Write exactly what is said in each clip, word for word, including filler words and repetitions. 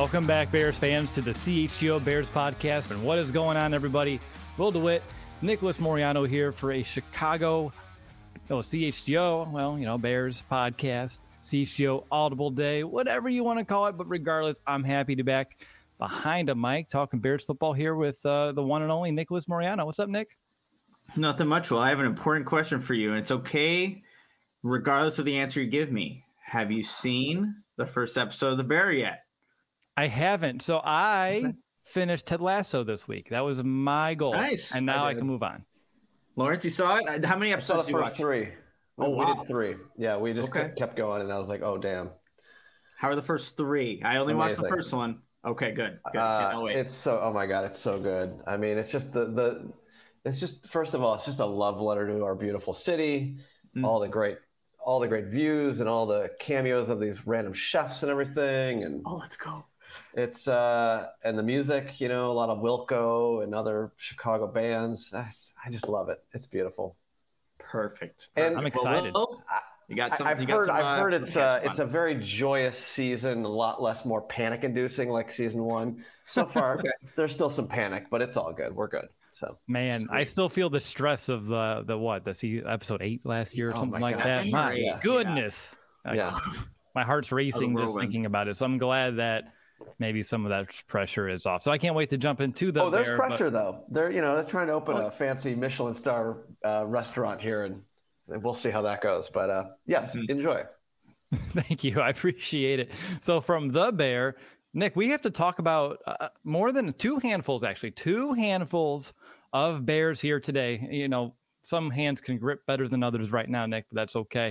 Welcome back, Bears fans, to the C H G O Bears podcast. And what is going on, everybody? Will DeWitt, Nicholas Moriano here for a Chicago, oh, C H G O, well, you know, Bears podcast, C H G O Audible Day, whatever you want to call it. But regardless, I'm happy to be back behind a mic talking Bears football here with uh, the one and only Nicholas Moriano. What's up, Nick? Nothing much. Well, I have an important question for you, and it's okay regardless of the answer you give me. Have you seen the first episode of The Bear yet? I haven't. So I okay. finished Ted Lasso this week. That was my goal. Nice. And now I, I can move on. Lawrence, you saw it? How many episodes did you watch? Three. Oh, we wow. did three. Yeah, we just okay. kept going, and I was like, oh, damn. How are the first three? I only Amazing. watched the first one. Okay, good. good. Uh, wait. It's so, oh my God, it's so good. I mean, it's just the, the, it's just, first of all, it's just a love letter to our beautiful city, mm. all the great, all the great views and all the cameos of these random chefs and everything. And oh, let's go. It's, uh, and the music, you know, a lot of Wilco and other Chicago bands. I just love it. It's beautiful. Perfect. And I'm excited. Well, you got some, I've you heard, got some, I've uh, heard it's, uh, it's a very joyous season, a lot less more panic inducing like season one. So far, okay. There's still some panic, but it's all good. We're good. So man, Sweet. I still feel the stress of the, the what, the see episode eight last year or oh something like God. that. My yeah. goodness. Yeah. I, my heart's racing just thinking about it. So I'm glad that maybe some of that pressure is off. So I can't wait to jump into the Oh, there's Bear, pressure but... though. They're, you know, they're trying to open oh. a fancy Michelin star uh, restaurant here, and we'll see how that goes. But uh, yes, mm-hmm. enjoy. Thank you. I appreciate it. So from the Bear, Nick, we have to talk about uh, more than two handfuls, actually, two handfuls of Bears here today. You know, some hands can grip better than others right now, Nick, but that's okay.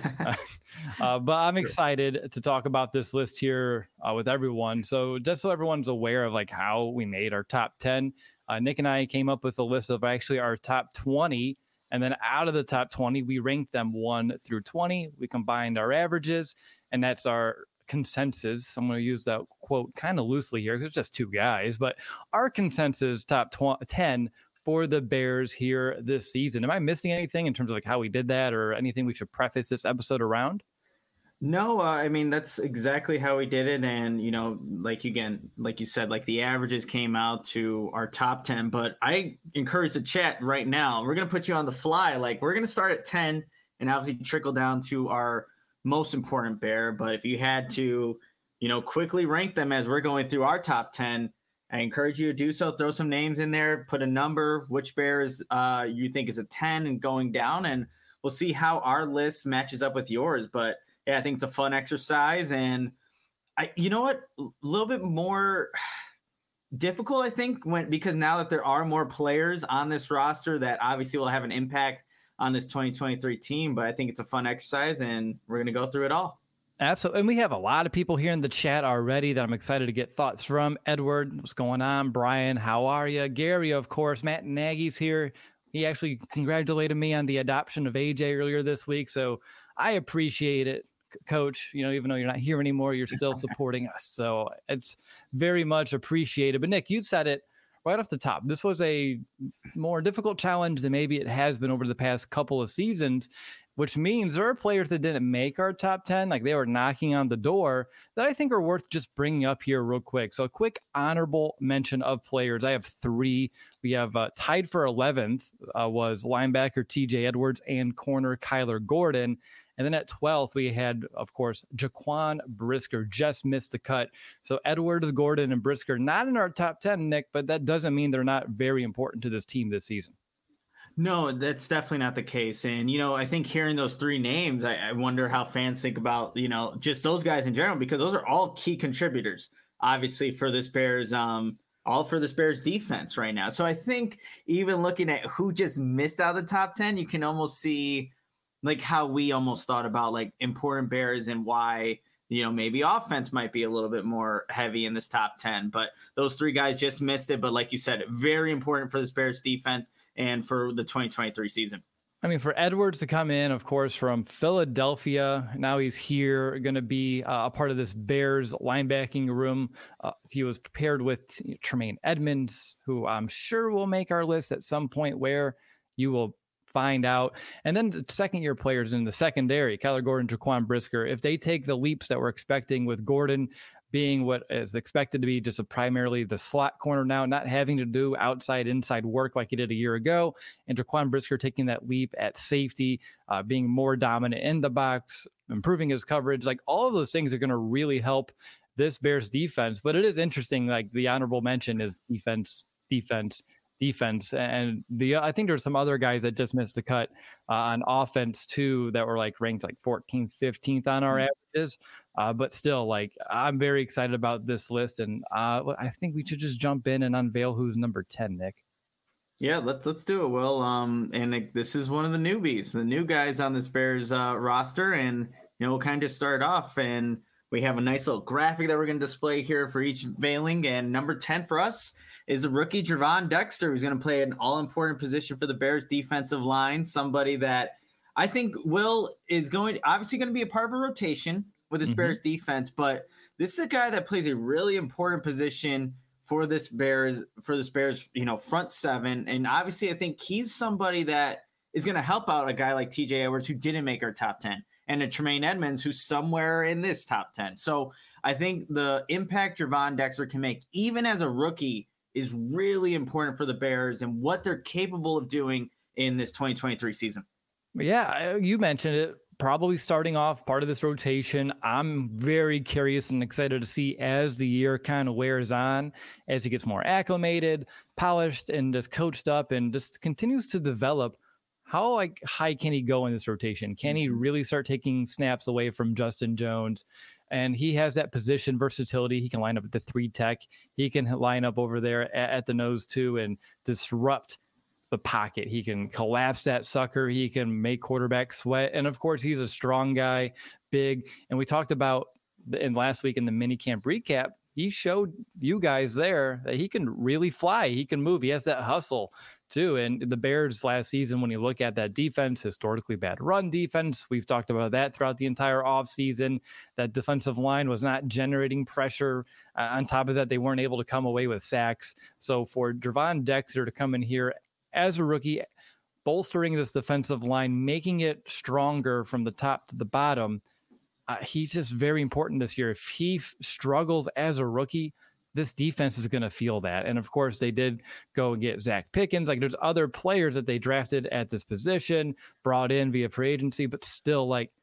uh, but I'm excited to talk about this list here uh, with everyone. So just so everyone's aware of like how we made our top ten, uh, Nick and I came up with a list of actually our top twenty. And then out of the top twenty, we ranked them one through twenty. We combined our averages, and that's our consensus. I'm going to use that quote kind of loosely here because it's just two guys, but our consensus top tw- ten for the Bears here this season. Am I missing anything in terms of like how we did that or anything we should preface this episode around? No, uh, I mean, that's exactly how we did it. And, you know, like, again, like you said, like the averages came out to our top ten, but I encourage the chat right now. We're going to put you on the fly. Like, we're going to start at ten and obviously trickle down to our most important Bear. But if you had to, you know, quickly rank them as we're going through our top ten, I encourage you to do so. Throw some names in there, put a number, which Bears uh, you think is a ten and going down, and we'll see how our list matches up with yours. But yeah, I think it's a fun exercise, and I, you know what, a little bit more difficult, I think, when because now that there are more players on this roster that obviously will have an impact on this twenty twenty-three team. But I think it's a fun exercise, and we're going to go through it all. Absolutely. And we have a lot of people here in the chat already that I'm excited to get thoughts from. Edward, what's going on? Brian, how are you? Gary, of course. Matt Nagy's here. He actually congratulated me on the adoption of A J earlier this week. So I appreciate it, Coach. You know, even though you're not here anymore, you're still supporting us. So it's very much appreciated. But Nick, you said it right off the top. This was a more difficult challenge than maybe it has been over the past couple of seasons, which means there are players that didn't make our top ten, like they were knocking on the door, that I think are worth just bringing up here real quick. So a quick honorable mention of players. I have three. We have uh, tied for eleventh uh, was linebacker T J Edwards and corner Kyler Gordon. And then at twelfth, we had, of course, Jaquan Brisker just missed the cut. So Edwards, Gordon, and Brisker not in our top ten, Nick, but that doesn't mean they're not very important to this team this season. No, that's definitely not the case. And, you know, I think hearing those three names, I, I wonder how fans think about, you know, just those guys in general, because those are all key contributors, obviously, for this Bears, um, all for this Bears defense right now. So I think even looking at who just missed out of the top ten, you can almost see like how we almost thought about like important Bears and why, you know, maybe offense might be a little bit more heavy in this top ten, but those three guys just missed it. But like you said, very important for this Bears defense and for the twenty twenty-three season. I mean, for Edwards to come in, of course, from Philadelphia, now he's here, going to be uh, a part of this Bears linebacking room. Uh, he was paired with you know, Tremaine Edmonds, who I'm sure will make our list at some point where you will find out. And then the second year players in the secondary, Kyler Gordon, Jaquan Brisker, if they take the leaps that we're expecting with Gordon being what is expected to be just a primarily the slot corner now, not having to do outside inside work like he did a year ago, and Jaquan Brisker taking that leap at safety, uh, being more dominant in the box, improving his coverage. Like all of those things are going to really help this Bears defense. But it is interesting, like the honorable mention is defense, defense, defense. And the I think there's some other guys that just missed the cut uh, on offense too that were like ranked like fourteenth, fifteenth on our averages. Uh, but still, like I'm very excited about this list, and uh, I think we should just jump in and unveil who's number ten, Nick. Yeah, let's let's do it, Will. Um, and like, this is one of the newbies, the new guys on this Bears uh, roster, and you know we'll kind of start off, and we have a nice little graphic that we're going to display here for each veiling. And number ten for us is the rookie Gervon Dexter, who's going to play an all-important position for the Bears defensive line. Somebody that I think Will is going obviously going to be a part of a rotation with this mm-hmm. Bears defense, but this is a guy that plays a really important position for this Bears, for this Bears, you know, front seven. And obviously I think he's somebody that is going to help out a guy like T J Edwards, who didn't make our top ten, and a Tremaine Edmonds, who's somewhere in this top ten. So I think the impact Gervon Dexter can make, even as a rookie, is really important for the Bears and what they're capable of doing in this twenty twenty-three season. Yeah, you mentioned it. Probably starting off part of this rotation. I'm very curious and excited to see as the year kind of wears on, as he gets more acclimated, polished, and just coached up and just continues to develop. How like high can he go in this rotation? Can he really start taking snaps away from Justin Jones? And he has that position versatility. He can line up at the three tech. He can line up over there at, at the nose too and disrupt the pocket. He can collapse that sucker. He can make quarterback sweat. And of course, he's a strong guy, big. And we talked about the, in last week in the mini camp recap, he showed you guys there that he can really fly. He can move. He has that hustle too. And the Bears last season, when you look at that defense, historically bad run defense, we've talked about that throughout the entire offseason. That defensive line was not generating pressure. Uh, on top of that, they weren't able to come away with sacks. So for Gervon Dexter to come in here as a rookie, bolstering this defensive line, making it stronger from the top to the bottom, uh, he's just very important this year. If he f- struggles as a rookie, this defense is going to feel that. And of course, they did go and get Zach Pickens. Like there's other players that they drafted at this position, brought in via free agency, but still, like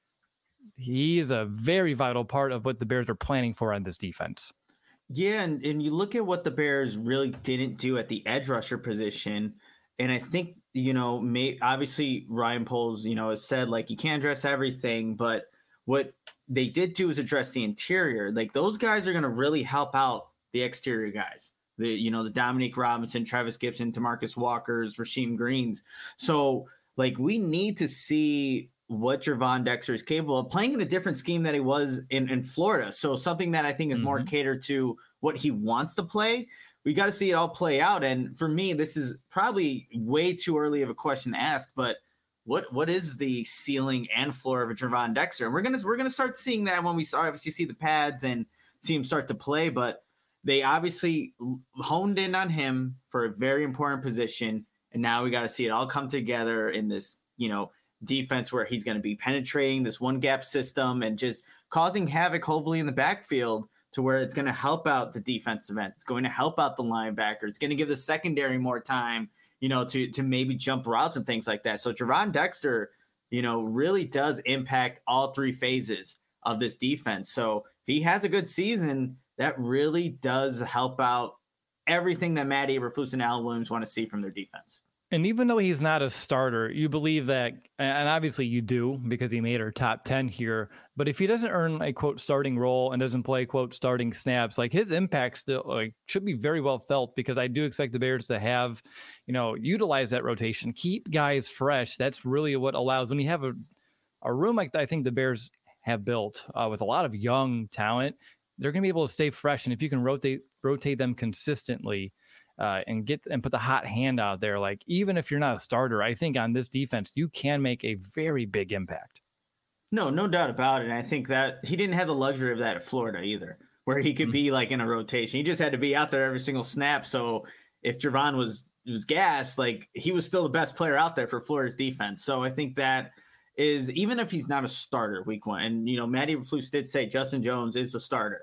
he is a very vital part of what the Bears are planning for on this defense. Yeah, and, and you look at what the Bears really didn't do at the edge rusher position. And I think, you know, may, obviously Ryan Poles, you know, has said like you can't address everything, but what they did do is address the interior. Like those guys are going to really help out the exterior guys. The, you know, the Dominique Robinson, Travis Gibson, DeMarcus Walkers, Rasheem Greens. So like we need to see what Gervon Dexter is capable of playing in a different scheme that he was in, in Florida. So something that I think is mm-hmm. more catered to what he wants to play. We got to see it all play out. And for me, this is probably way too early of a question to ask, but what what is the ceiling and floor of a Gervon Dexter? And we're gonna we're gonna start seeing that when we obviously see the pads and see him start to play. But they obviously honed in on him for a very important position, and now we got to see it all come together in this, you know, defense where he's going to be penetrating this one gap system and just causing havoc, hopefully in the backfield, to where it's going to help out the defensive end. It's going to help out the linebacker. It's going to give the secondary more time, you know, to to maybe jump routes and things like that. So Gervon Dexter, you know, really does impact all three phases of this defense. So if he has a good season, that really does help out everything that Matt Eberflus and Alan Williams want to see from their defense. And even though he's not a starter, you believe that, and obviously you do because he made our top ten here, but if he doesn't earn a quote starting role and doesn't play quote starting snaps, like his impact still like should be very well felt, because I do expect the Bears to have, you know, utilize that rotation, keep guys fresh. That's really what allows, when you have a, a room like that, I think the Bears have built uh, with a lot of young talent, they're going to be able to stay fresh. And if you can rotate, rotate them consistently, Uh, and get and put the hot hand out there, like even if you're not a starter, I think on this defense you can make a very big impact. No, no doubt about it. And I think that he didn't have the luxury of that at Florida either, where he could mm-hmm. be like in a rotation. He just had to be out there every single snap. So if Gervon was was gassed, like he was still the best player out there for Florida's defense. So I think that is, even if he's not a starter week one, and you know Matt Eberflus did say Justin Jones is a starter.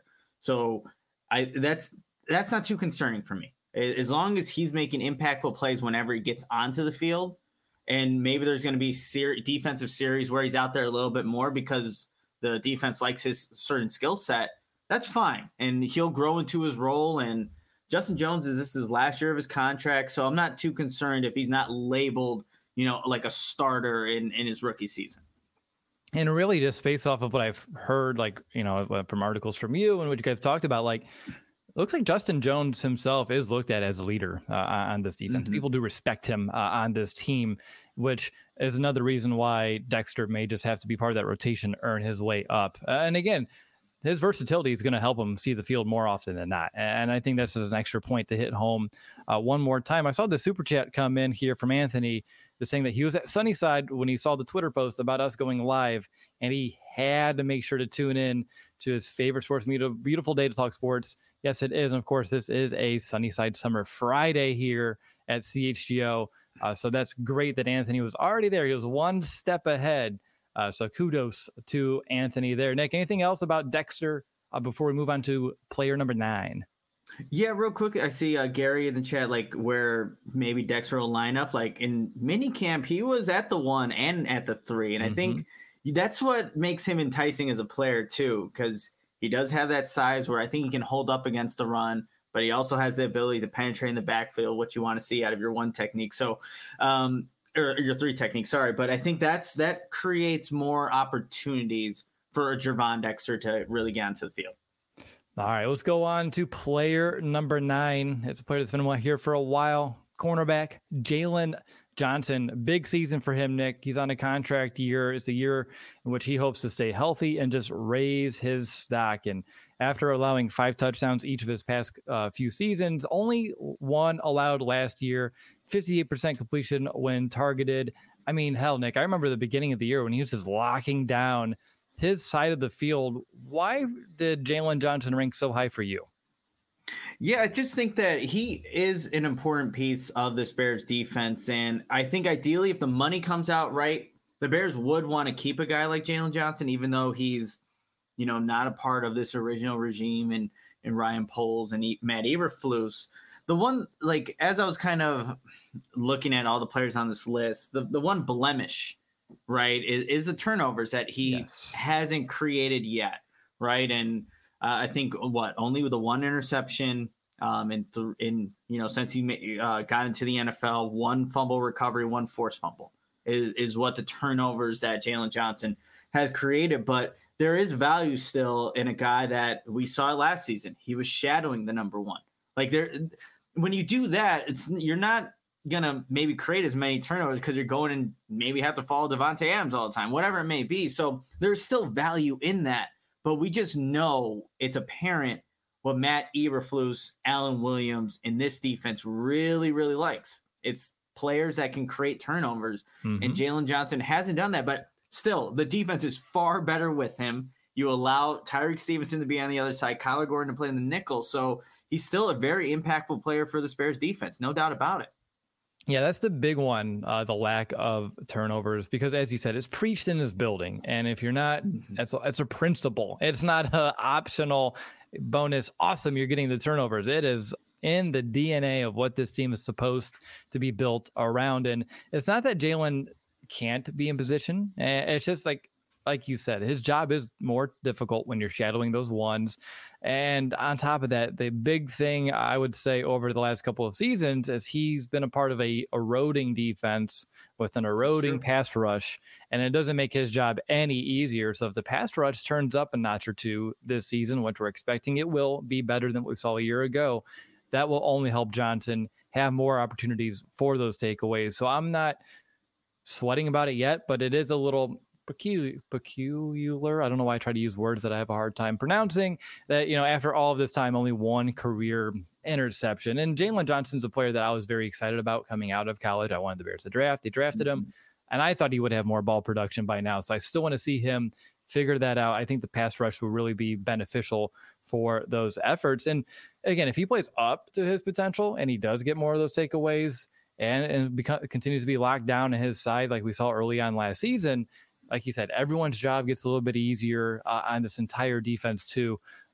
So I that's that's not too concerning for me. As long as he's making impactful plays whenever he gets onto the field, and maybe there's going to be ser- defensive series where he's out there a little bit more because the defense likes his certain skill set, that's fine. And he'll grow into his role. And Justin Jones is this is last year of his contract, so I'm not too concerned if he's not labeled, you know, like a starter in, in his rookie season. And really just based off of what I've heard, like, you know, from articles from you and what you guys talked about, like, it looks like Justin Jones himself is looked at as a leader uh, on this defense. Mm-hmm. People do respect him uh, on this team, which is another reason why Dexter may just have to be part of that rotation, earn his way up. Uh, and again, his versatility is going to help him see the field more often than not. And I think that's just an extra point to hit home uh, one more time. I saw the super chat come in here from Anthony, just saying that he was at Sunnyside when he saw the Twitter post about us going live, and he had to make sure to tune in to his favorite sports media. Beautiful day to talk sports. Yes, it is. And of course, this is a Sunnyside Summer Friday here at C H G O. Uh, so that's great that Anthony was already there. He was one step ahead. Uh, so kudos to Anthony there. Nick, anything else about Dexter uh, before we move on to player number nine? Yeah, real quick, I see uh, Gary in the chat, like where maybe Dexter will line up. Like in minicamp, he was at the one and at the three. And mm-hmm. I think that's what makes him enticing as a player too, because he does have that size where I think he can hold up against the run, but he also has the ability to penetrate in the backfield, what you want to see out of your one technique. So, um, or your three technique, sorry. But I think that's that creates more opportunities for a Gervon Dexter to really get onto the field. All right, let's go on to player number nine. It's a player that's been here for a while. Cornerback, Jalen Johnson. Big season for him, Nick. He's on a contract year. It's a year in which he hopes to stay healthy and just raise his stock. And after allowing five touchdowns each of his past uh, few seasons, only one allowed last year, fifty-eight percent completion when targeted. I mean, hell, Nick, I remember the beginning of the year when he was just locking down his side of the field. Why did Jalen Johnson rank so high for you? Yeah, I just think that he is an important piece of this Bears defense. And I think ideally, if the money comes out right, the Bears would want to keep a guy like Jalen Johnson, even though he's, you know, not a part of this original regime and, and Ryan Poles and Matt Eberflus. The one, like, as I was kind of looking at all the players on this list, the, the one blemish, right, is, is the turnovers that he yes. hasn't created yet, right? And uh, I think what only with the one interception, um, and th- in you know since he uh, got into the N F L, one fumble recovery, one forced fumble is is what the turnovers that Jalen Johnson has created. But there is value still in a guy that we saw last season. He was shadowing the number one. Like there, when you do that, it's you're not gonna maybe create as many turnovers because you're going and maybe have to follow Devontae Adams all the time, whatever it may be. So there's still value in that, but we just know it's apparent what Matt Eberflus, Alan Williams in this defense really, really likes. It's players that can create turnovers, mm-hmm. and Jalen Johnson hasn't done that, but still the defense is far better with him. You allow Tyreek Stevenson to be on the other side, Kyler Gordon to play in the nickel. So he's still a very impactful player for the Bears defense. No doubt about it. Yeah, that's the big one, uh, the lack of turnovers, because as you said, it's preached in this building. And if you're not, that's a, that's a principle. It's not an optional bonus. Awesome, you're getting the turnovers. It is in the D N A of what this team is supposed to be built around. And it's not that Jalen can't be in position. It's just like, like you said, his job is more difficult when you're shadowing those ones. And on top of that, the big thing I would say over the last couple of seasons is he's been a part of a eroding defense with an eroding sure. pass rush, and it doesn't make his job any easier. So if the pass rush turns up a notch or two this season, which we're expecting it will be better than what we saw a year ago, that will only help Johnson have more opportunities for those takeaways. So I'm not sweating about it yet, but it is a little peculiar, peculiar. I don't know why I try to use words that I have a hard time pronouncing, that, you know, after all of this time, only one career interception. And Jalen Johnson's a player that I was very excited about coming out of college. I wanted the Bears to draft. They drafted him, and I thought he would have more ball production by now. So I still want to see him figure that out. I think the pass rush will really be beneficial for those efforts. And again, if he plays up to his potential and he does get more of those takeaways and, and beca- continues to be locked down in his side like we saw early on last season, like you said, everyone's job gets a little bit easier uh, on this entire defense too.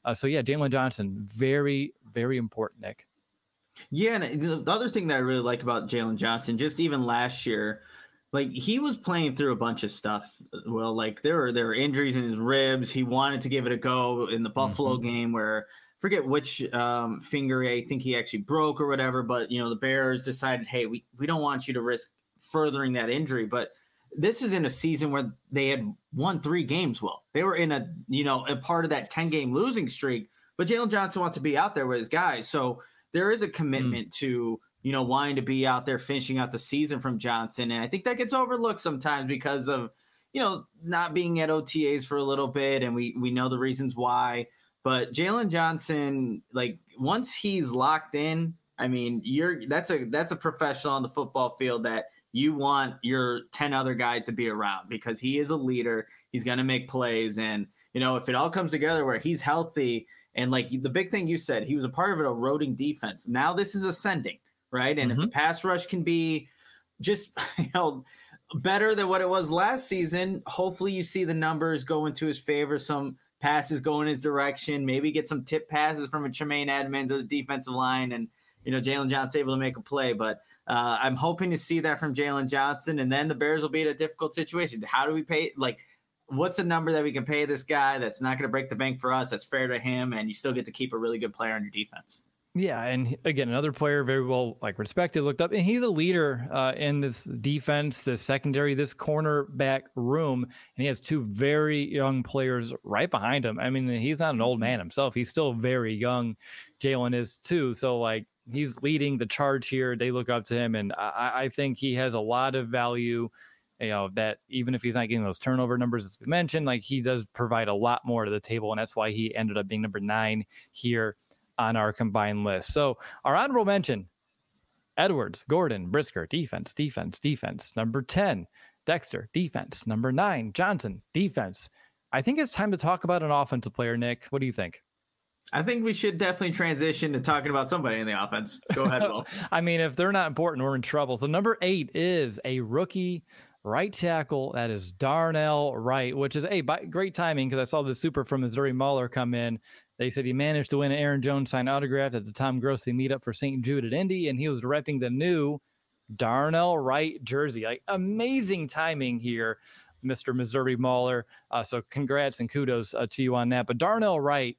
Uh, so, yeah, Jaylon Johnson, very, very important, Nick. Yeah, and the other thing that I really like about Jaylon Johnson, just even last year, like he was playing through a bunch of stuff. Well, like there were there were injuries in his ribs. He wanted to give it a go in the Buffalo mm-hmm. game where forget which um, finger I think he actually broke or whatever. But you know the Bears decided, hey, we we don't want you to risk furthering that injury. But this is in a season where they had won three games. Well, they were in a you know a part of that ten game losing streak. But Jaylon Johnson wants to be out there with his guys, so there is a commitment mm. to, you know, wanting to be out there finishing out the season from Johnson. And I think that gets overlooked sometimes because of, you know, not being at O T As for a little bit. And we, we know the reasons why. But Jaylon Johnson, like once he's locked in, I mean, you're that's a that's a professional on the football field that you want your ten other guys to be around because he is a leader. He's going to make plays. And, you know, if it all comes together where he's healthy, and like the big thing you said, he was a part of an eroding defense. Now this is ascending, right? And mm-hmm. if the pass rush can be just you know better than what it was last season, hopefully you see the numbers go into his favor. Some passes go in his direction. Maybe get some tip passes from a Tremaine Edmonds of the defensive line, and you know Jaylon Johnson able to make a play. But uh, I'm hoping to see that from Jaylon Johnson, and then the Bears will be in a difficult situation. How do we pay? Like, what's a number that we can pay this guy that's not going to break the bank for us, that's fair to him, and you still get to keep a really good player on your defense? Yeah, and again, another player very well like respected, looked up, and he's a leader uh, in this defense, the secondary, this cornerback room, and he has two very young players right behind him. I mean, he's not an old man himself; he's still very young. Jaylon is too, so like he's leading the charge here. They look up to him, and I, I think he has a lot of value. You know, that even if he's not getting those turnover numbers, as we mentioned, like he does provide a lot more to the table. And that's why he ended up being number nine here on our combined list. So our honorable mention, Edwards, Gordon, Brisker, defense, defense, defense. Number ten, Dexter, defense. Number nine, Johnson, defense. I think it's time to talk about an offensive player, Nick. What do you think? I think we should definitely transition to talking about somebody in the offense. Go ahead, Will. I mean, if they're not important, we're in trouble. So number eight is a rookie right tackle. That is Darnell Wright, which is a hey, great timing because I saw the super from Missouri Mauler come in. They said he managed to win an Aaron Jones signed autograph at the Tom Grossi meetup for Saint Jude at Indy, and he was repping the new Darnell Wright jersey. Like amazing timing here, Mister Missouri Mauler. Uh, so congrats and kudos uh, to you on that. But Darnell Wright,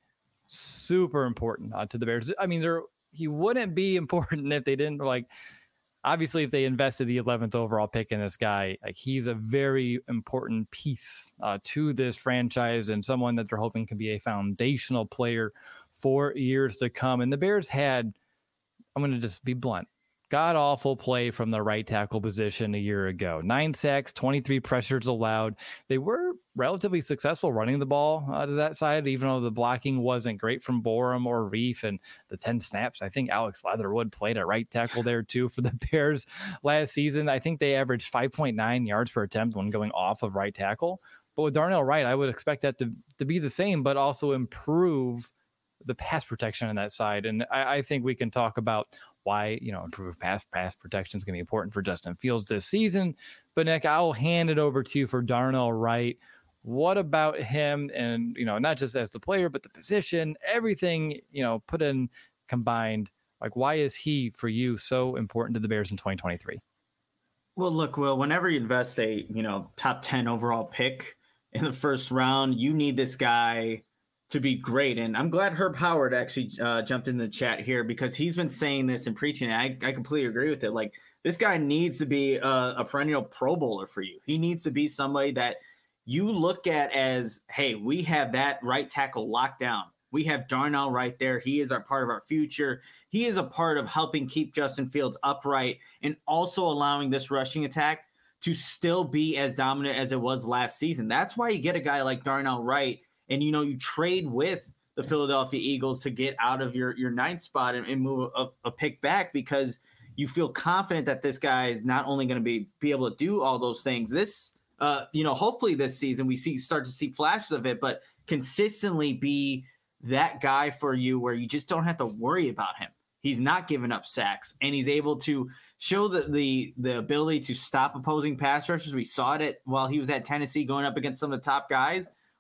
super important uh, to the Bears. I mean, there he wouldn't be important if they didn't like. Obviously, if they invested the eleventh overall pick in this guy, like he's a very important piece uh, to this franchise and someone that they're hoping can be a foundational player for years to come. And the Bears had, I'm going to just be blunt, god awful play from the right tackle position a year ago. Nine sacks, twenty-three pressures allowed. They were relatively successful running the ball uh, to that side, even though the blocking wasn't great from Borum or Reef. And the ten snaps, I think Alex Leatherwood played at right tackle there too for the Bears last season. I think they averaged five point nine yards per attempt when going off of right tackle. But with Darnell Wright, I would expect that to, to be the same, but also improve the pass protection on that side. And I, I think we can talk about why, you know, improved pass pass protection is going to be important for Justin Fields this season. But Nick, I'll hand it over to you for Darnell Wright. What about him? And, you know, not just as the player, but the position, everything, you know, put in combined, like why is he for you so important to the Bears in twenty twenty-three? Well, look, Will, whenever you invest a, you know, top ten overall pick in the first round, you need this guy to be great. And I'm glad Herb Howard actually uh, jumped in the chat here because he's been saying this and preaching it. I, I completely agree with it. Like this guy needs to be a, a perennial Pro Bowler for you. He needs to be somebody that you look at as, hey, we have that right tackle locked down. We have Darnell right there. He is our part of our future. He is a part of helping keep Justin Fields upright and also allowing this rushing attack to still be as dominant as it was last season. That's why you get a guy like Darnell Wright. And, you know, you trade with the Philadelphia Eagles to get out of your, your ninth spot and, and move a, a pick back because you feel confident that this guy is not only going to be, be able to do all those things. This, uh, you know, hopefully this season we see start to see flashes of it, but consistently be that guy for you where you just don't have to worry about him. He's not giving up sacks, and he's able to show the, the, the ability to stop opposing pass rushers. We saw it at, while he was at Tennessee going up against some of the top guys.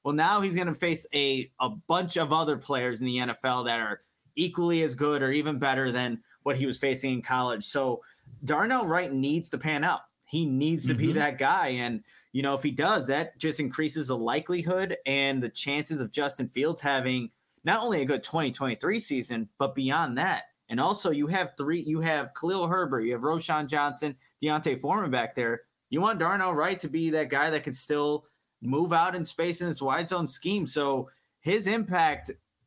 Well, now he's going to face a, a bunch of other players in the N F L that are equally as good or even better than what he was facing in college. So Darnell Wright needs to pan out. He needs to mm-hmm. be that guy. And, you know, if he does, that just increases the likelihood and the chances of Justin Fields having not only a good twenty twenty-three season, but beyond that. And also you have three, you have Khalil Herbert, you have Roschon Johnson, Deontay Foreman back there. You want Darnell Wright to be that guy that can still move out in space in this wide zone scheme. So his impact,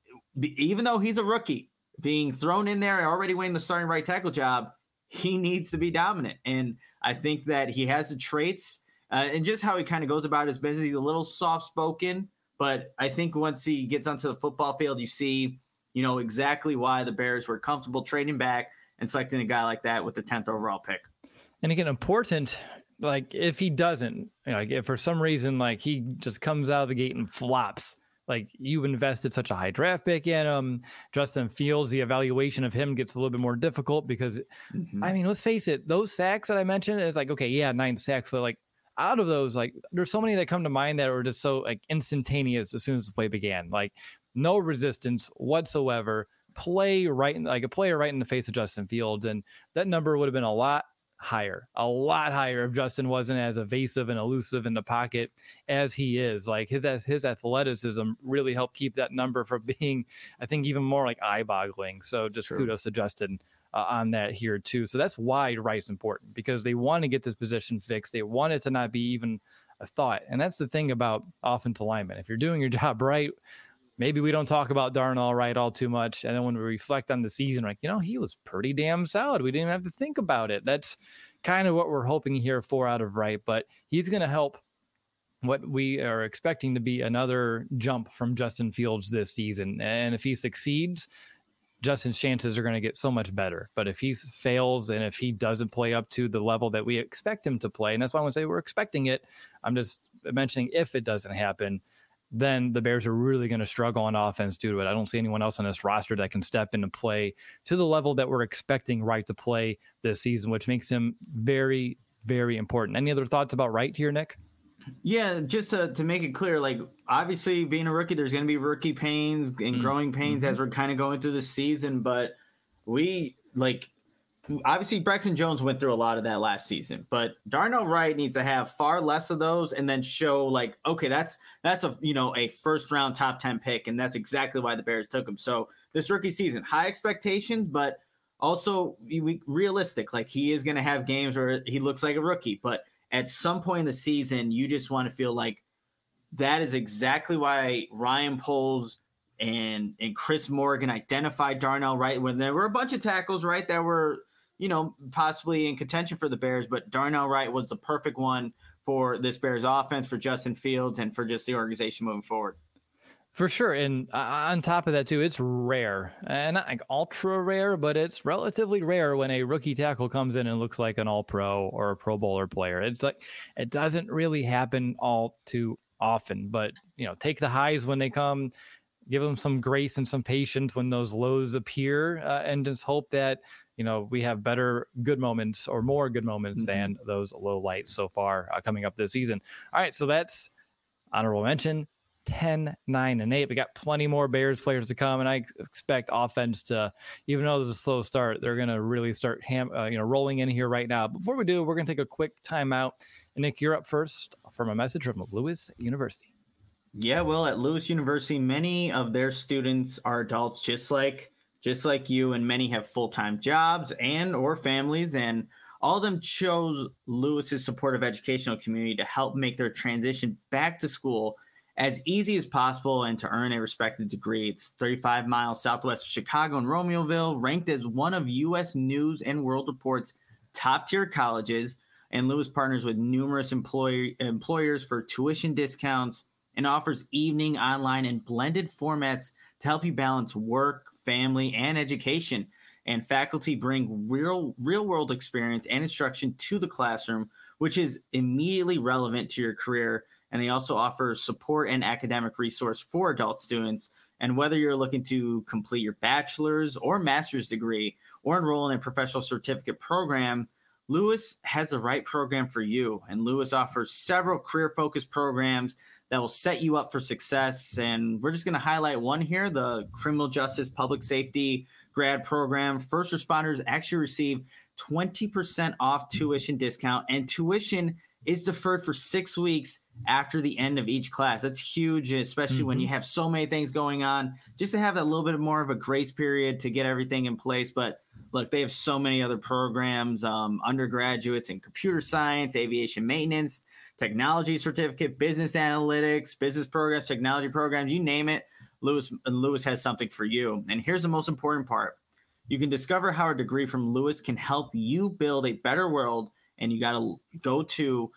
even though he's a rookie, being thrown in there, already winning the starting right tackle job, he needs to be dominant. And I think that he has the traits uh, and just how he kind of goes about his business. He's a little soft-spoken, but I think once he gets onto the football field, you see, you know, exactly why the Bears were comfortable trading back and selecting a guy like that with the tenth overall pick. And again, important, like if he doesn't, you know, like if for some reason, like he just comes out of the gate and flops, like you've invested such a high draft pick in him, Justin Fields, the evaluation of him gets a little bit more difficult because, mm-hmm. I mean, let's face it, those sacks that I mentioned, it's like, okay, yeah, nine sacks, but like out of those, like there's so many that come to mind that were just so like instantaneous as soon as the play began, like no resistance whatsoever, play right in, like a player right in the face of Justin Fields. And that number would have been a lot higher, a lot higher if Justin wasn't as evasive and elusive in the pocket as he is. Like his his athleticism really helped keep that number from being, I think, even more like eye-boggling. So just True. kudos to Justin uh, on that here too. So that's why Wright's important, because they want to get this position fixed. They want it to not be even a thought. And that's the thing about offensive linemen. If you're doing your job right, maybe we don't talk about Darnell Wright all too much. And then when we reflect on the season, like, you know, he was pretty damn solid. We didn't have to think about it. That's kind of what we're hoping here for out of Wright. But he's going to help what we are expecting to be another jump from Justin Fields this season. And if he succeeds, Justin's chances are going to get so much better. But if he fails and if he doesn't play up to the level that we expect him to play, and that's why I want to say we're expecting it, I'm just mentioning if it doesn't happen, then the Bears are really going to struggle on offense due to it. I don't see anyone else on this roster that can step into play to the level that we're expecting Wright to play this season, which makes him very, very important. Any other thoughts about Wright here, Nick? Yeah, just to, to make it clear, like obviously being a rookie, there's going to be rookie pains and mm-hmm. growing pains mm-hmm. as we're kind of going through the season. But we like obviously Braxton Jones went through a lot of that last season, but Darnell Wright needs to have far less of those and then show like, okay, that's that's a you know a first round top ten pick, and that's exactly why the Bears took him. So this rookie season, high expectations, but also we, realistic. Like he is going to have games where he looks like a rookie, but at some point in the season, you just want to feel like that is exactly why Ryan Poles and and Chris Morgan identified Darnell Wright when there were a bunch of tackles, right, that were, you know, possibly in contention for the Bears, but Darnell Wright was the perfect one for this Bears offense, for Justin Fields, and for just the organization moving forward. For sure. And uh, on top of that, too, it's rare, and not like ultra rare, but it's relatively rare when a rookie tackle comes in and looks like an all pro or a pro bowler player. It's like, it doesn't really happen all too often, but, you know, take the highs when they come, give them some grace and some patience when those lows appear, uh, and just hope that, you know, we have better good moments or more good moments mm-hmm. than those low lights so far uh, coming up this season. All right. So that's honorable mention. ten, nine, and eight. We got plenty more Bears players to come, and I expect offense to, even though there's a slow start, they're going to really start ham, uh, you know, rolling in here right now. Before we do, we're going to take a quick timeout. And Nick, you're up first from a message from Lewis University. Yeah, well, at Lewis University, many of their students are adults just like just like you, and many have full-time jobs and or families, and all of them chose Lewis's supportive educational community to help make their transition back to school as easy as possible and to earn a respected degree. It's thirty-five miles southwest of Chicago in Romeoville, ranked as one of U S News and World Report's top-tier colleges, and Lewis partners with numerous employer, employers for tuition discounts and offers evening, online, and blended formats to help you balance work, family, and education. And faculty bring real, real-world experience and instruction to the classroom, which is immediately relevant to your career. And they also offer support and academic resource for adult students. And whether you're looking to complete your bachelor's or master's degree or enroll in a professional certificate program, Lewis has the right program for you. And Lewis offers several career-focused programs that will set you up for success. And we're just going to highlight one here, the Criminal Justice Public Safety grad program. First responders actually receive twenty percent off tuition discount, and tuition is deferred for six weeks after the end of each class. That's huge, especially mm-hmm. when you have so many things going on, just to have that little bit more of a grace period to get everything in place. But look, they have so many other programs, um, undergraduates in computer science, aviation maintenance, technology certificate, business analytics, business programs, technology programs, you name it. Lewis, Lewis has something for you. And here's the most important part. You can discover how a degree from Lewis can help you build a better world. And you got to go to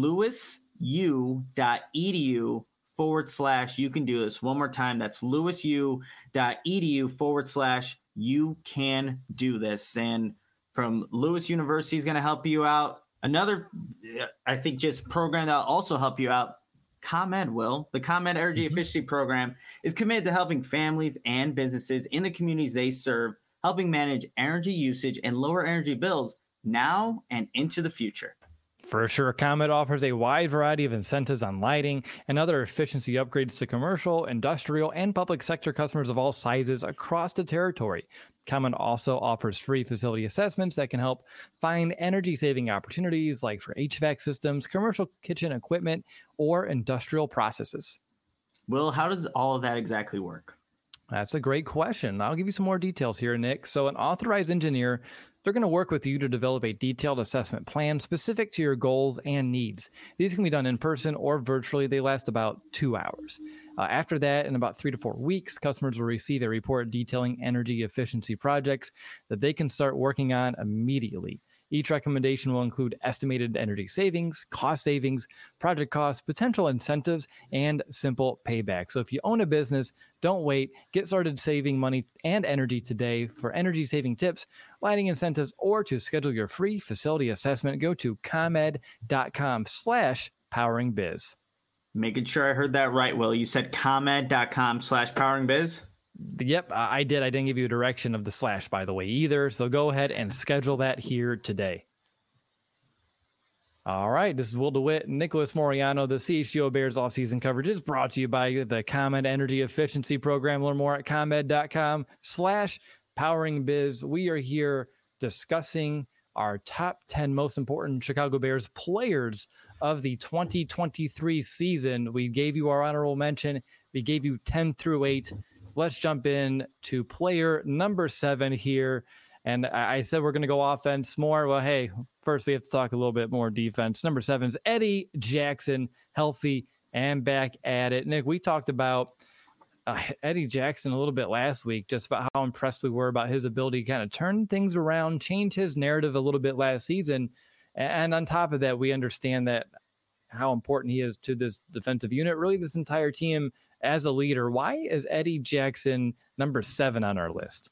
lewisu.edu forward slash you can do this. One more time, that's lewisu.edu forward slash you can do this. And from Lewis University is going to help you out. Another, I think, just program that will also help you out, ComEd will. The ComEd Energy mm-hmm. Efficiency Program is committed to helping families and businesses in the communities they serve, helping manage energy usage and lower energy bills now and into the future. For sure, ComEd offers a wide variety of incentives on lighting and other efficiency upgrades to commercial, industrial, and public sector customers of all sizes across the territory. ComEd also offers free facility assessments that can help find energy-saving opportunities like for H V A C systems, commercial kitchen equipment, or industrial processes. Will, how does all of that exactly work? That's a great question. I'll give you some more details here, Nick. So an authorized engineer, they're going to work with you to develop a detailed assessment plan specific to your goals and needs. These can be done in person or virtually. They last about two hours. Uh, after that, in about three to four weeks, customers will receive a report detailing energy efficiency projects that they can start working on immediately. Each recommendation will include estimated energy savings, cost savings, project costs, potential incentives, and simple payback. So if you own a business, don't wait. Get started saving money and energy today. For energy saving tips, lighting incentives, or to schedule your free facility assessment, go to comed.com slash powering biz. Making sure I heard that right, Will. You said comed.com slash powering biz? Yep, I did. I didn't give you a direction of the slash, by the way, either. So go ahead and schedule that here today. All right, this is Will DeWitt, Nicholas Moriano. The C H G O Bears offseason coverage is brought to you by the ComEd Energy Efficiency Program. Learn more at comed.com slash powering biz. We are here discussing our top ten most important Chicago Bears players of the twenty twenty-three season. We gave you our honorable mention. We gave you ten through eight. Let's jump in to player number seven here. And I said we're going to go offense more. Well, hey, first we have to talk a little bit more defense. Number seven is Eddie Jackson, healthy and back at it. Nick, we talked about uh, Eddie Jackson a little bit last week, just about how impressed we were about his ability to kind of turn things around, change his narrative a little bit last season. And on top of that, we understand that how important he is to this defensive unit, really this entire team as a leader. Why is Eddie Jackson number seven on our list?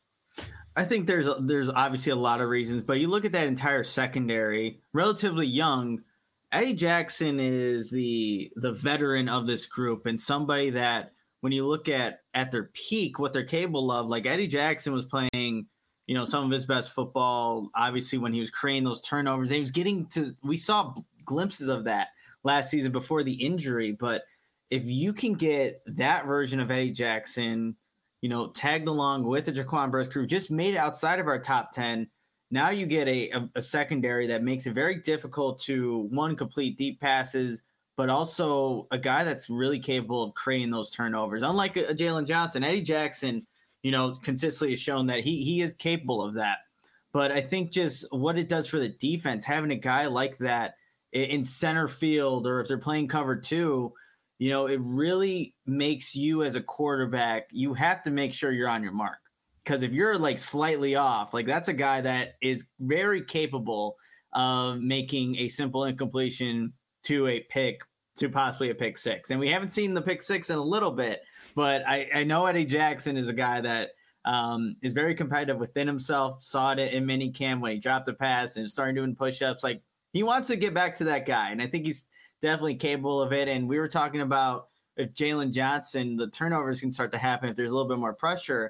I think there's there's obviously a lot of reasons, but you look at that entire secondary, relatively young. Eddie Jackson is the the veteran of this group, and somebody that when you look at at their peak, what they're capable of, like Eddie Jackson was playing, you know, some of his best football, obviously when he was creating those turnovers. And he was getting to, we saw glimpses of that last season before the injury, but if you can get that version of Eddie Jackson, you know, tagged along with the Jaquan Brisk crew, just made it outside of our top ten. Now you get a, a, a secondary that makes it very difficult to, one, complete deep passes, but also a guy that's really capable of creating those turnovers. Unlike a, a Jalen Johnson, Eddie Jackson, you know, consistently has shown that he he is capable of that. But I think just what it does for the defense, having a guy like that in center field, or if they're playing cover two, you know, it really makes you as a quarterback, you have to make sure you're on your mark. Because if you're like slightly off, like that's a guy that is very capable of making a simple incompletion to a pick, to possibly a pick six. And we haven't seen the pick six in a little bit, but I, I know Eddie Jackson is a guy that um, is very competitive within himself. Saw it in minicamp when he dropped the pass and started doing push-ups. Like, he wants to get back to that guy, and I think he's definitely capable of it. And we were talking about if Jalen Johnson, the turnovers can start to happen if there's a little bit more pressure.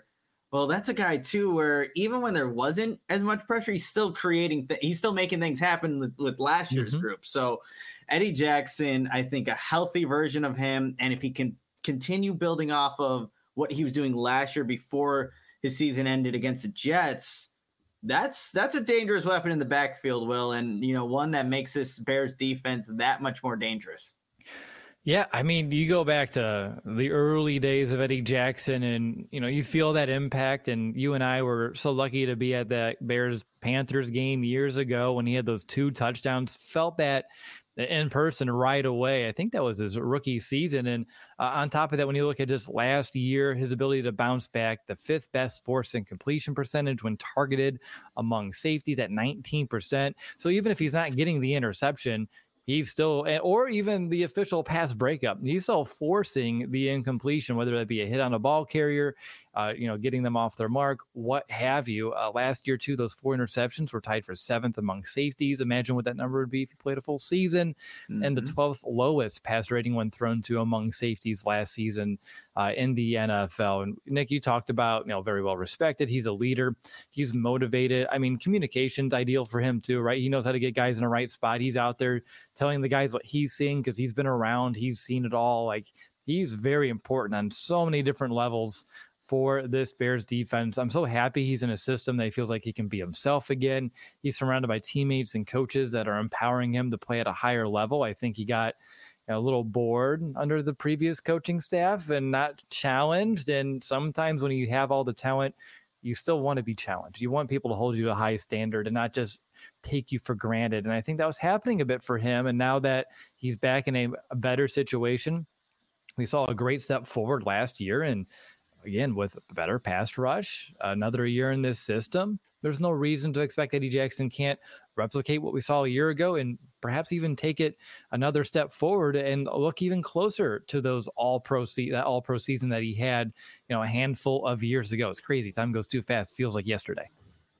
Well, that's a guy too, where even when there wasn't as much pressure, he's still creating. Th- he's still making things happen with, with last year's Mm-hmm. group. So, Eddie Jackson, I think a healthy version of him, and if he can continue building off of what he was doing last year before his season ended against the Jets, that's that's a dangerous weapon in the backfield, Will, and you know one that makes this Bears defense that much more dangerous. Yeah, I mean, you go back to the early days of Eddie Jackson and, you know, you feel that impact. And you and I were so lucky to be at that Bears-Panthers game years ago when he had those two touchdowns, felt that in person right away. I think that was his rookie season. And uh, on top of that, when you look at just last year, his ability to bounce back, the fifth best force and completion percentage when targeted among safeties at nineteen percent. So even if he's not getting the interception, he's still, or even the official pass breakup, he's still forcing the incompletion, whether that be a hit on a ball carrier, uh, you know, getting them off their mark, what have you. Uh, last year, too, those four interceptions were tied for seventh among safeties. Imagine what that number would be if you played a full season. Mm-hmm. And the twelfth lowest pass rating when thrown to among safeties last season uh, in the N F L. And Nick, you talked about, you know, very well respected. He's a leader. He's motivated. I mean, communication's ideal for him, too, right? He knows how to get guys in the right spot. He's out there telling the guys what he's seeing because he's been around. He's seen it all. Like, he's very important on so many different levels for this Bears defense. I'm so happy he's in a system that he feels like he can be himself again. He's surrounded by teammates and coaches that are empowering him to play at a higher level. I think he got a little bored under the previous coaching staff and not challenged. And sometimes when you have all the talent, you still want to be challenged. You want people to hold you to a high standard and not just take you for granted. And I think that was happening a bit for him. And now that he's back in a, a better situation, we saw a great step forward last year. And again, with a better pass rush, another year in this system, there's no reason to expect Eddie Jackson can't replicate what we saw a year ago and perhaps even take it another step forward and look even closer to those all-pro se- that all-pro season that he had, you know, a handful of years ago. It's crazy. Time goes too fast. Feels like yesterday.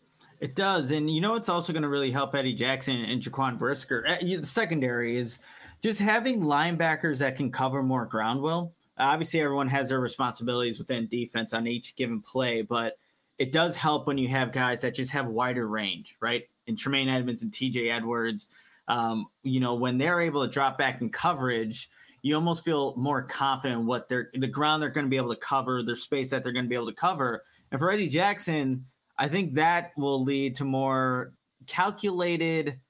It does. And you know what's also going to really help Eddie Jackson and Jaquan Brisker? The secondary is just having linebackers that can cover more ground, Will. Obviously, everyone has their responsibilities within defense on each given play, but it does help when you have guys that just have wider range, right? And Tremaine Edmonds and T J Edwards, um, you know, when they're able to drop back in coverage, you almost feel more confident in what they're, the ground they're going to be able to cover, their space that they're going to be able to cover. And for Eddie Jackson, I think that will lead to more calculated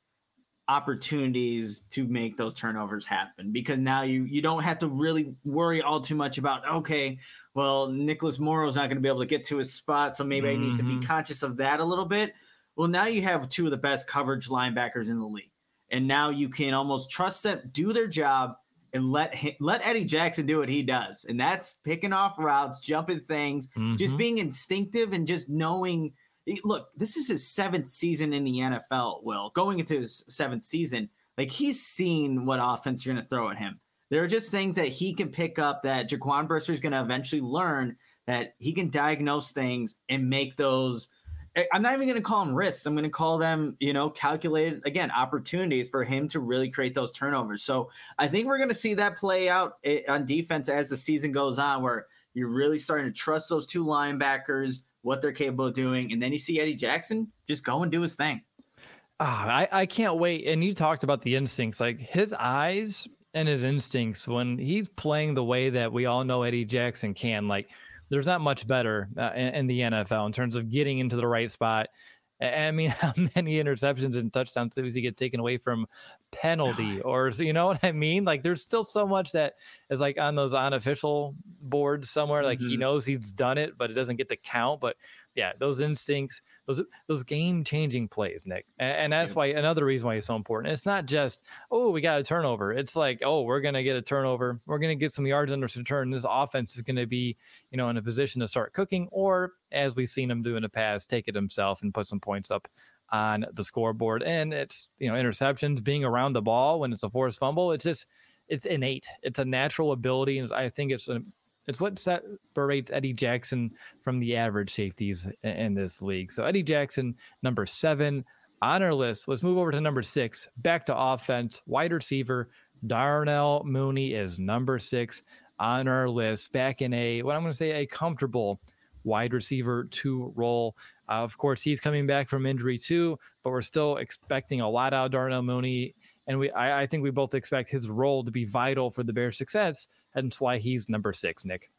opportunities to make those turnovers happen, because now you you don't have to really worry all too much about, okay, well, Nicholas Morrow's not going to be able to get to his spot, so maybe mm-hmm. I need to be conscious of that a little bit. Well, now you have two of the best coverage linebackers in the league, and now you can almost trust them, do their job, and let him, let Eddie Jackson do what he does, and that's picking off routes, jumping things, mm-hmm. just being instinctive and just knowing. Look, this is his seventh season in the N F L, Will. Going into his seventh season, like, he's seen what offense you're going to throw at him. There are just things that he can pick up that Jaquan Brisker is going to eventually learn, that he can diagnose things and make those. I'm not even going to call them risks. I'm going to call them, you know, calculated, again, opportunities for him to really create those turnovers. So I think we're going to see that play out on defense as the season goes on, where you're really starting to trust those two linebackers, what they're capable of doing. And then you see Eddie Jackson just go and do his thing. Oh, I, I can't wait. And you talked about the instincts, like his eyes and his instincts when he's playing the way that we all know Eddie Jackson can. Like, there's not much better uh, in, in the N F L in terms of getting into the right spot. I mean, how many interceptions and touchdowns does he get taken away from penalty, or, you know what I mean? Like, there's still so much that is like on those unofficial boards somewhere. Like, mm-hmm. he knows he's done it, but it doesn't get the count. But yeah, those instincts, those those game changing plays, Nick, and, and that's yeah. why another reason why it's so important. It's not just, oh, we got a turnover. It's like, oh, we're gonna get a turnover. We're gonna get some yards under return. This offense is gonna be, you know, in a position to start cooking, or as we've seen him do in the past, take it himself and put some points up on the scoreboard. And it's, you know, interceptions, being around the ball when it's a forced fumble. It's just, it's innate. It's a natural ability, and I think it's a, It's what separates Eddie Jackson from the average safeties in this league. So Eddie Jackson, number seven on our list. Let's move over to number six, back to offense. Wide receiver Darnell Mooney is number six on our list, back in a, what I'm going to say, a comfortable wide receiver two role. Uh, of course, he's coming back from injury too, but we're still expecting a lot out of Darnell Mooney. And we, I, I think we both expect his role to be vital for the Bears' success. Hence why he's number six, Nick.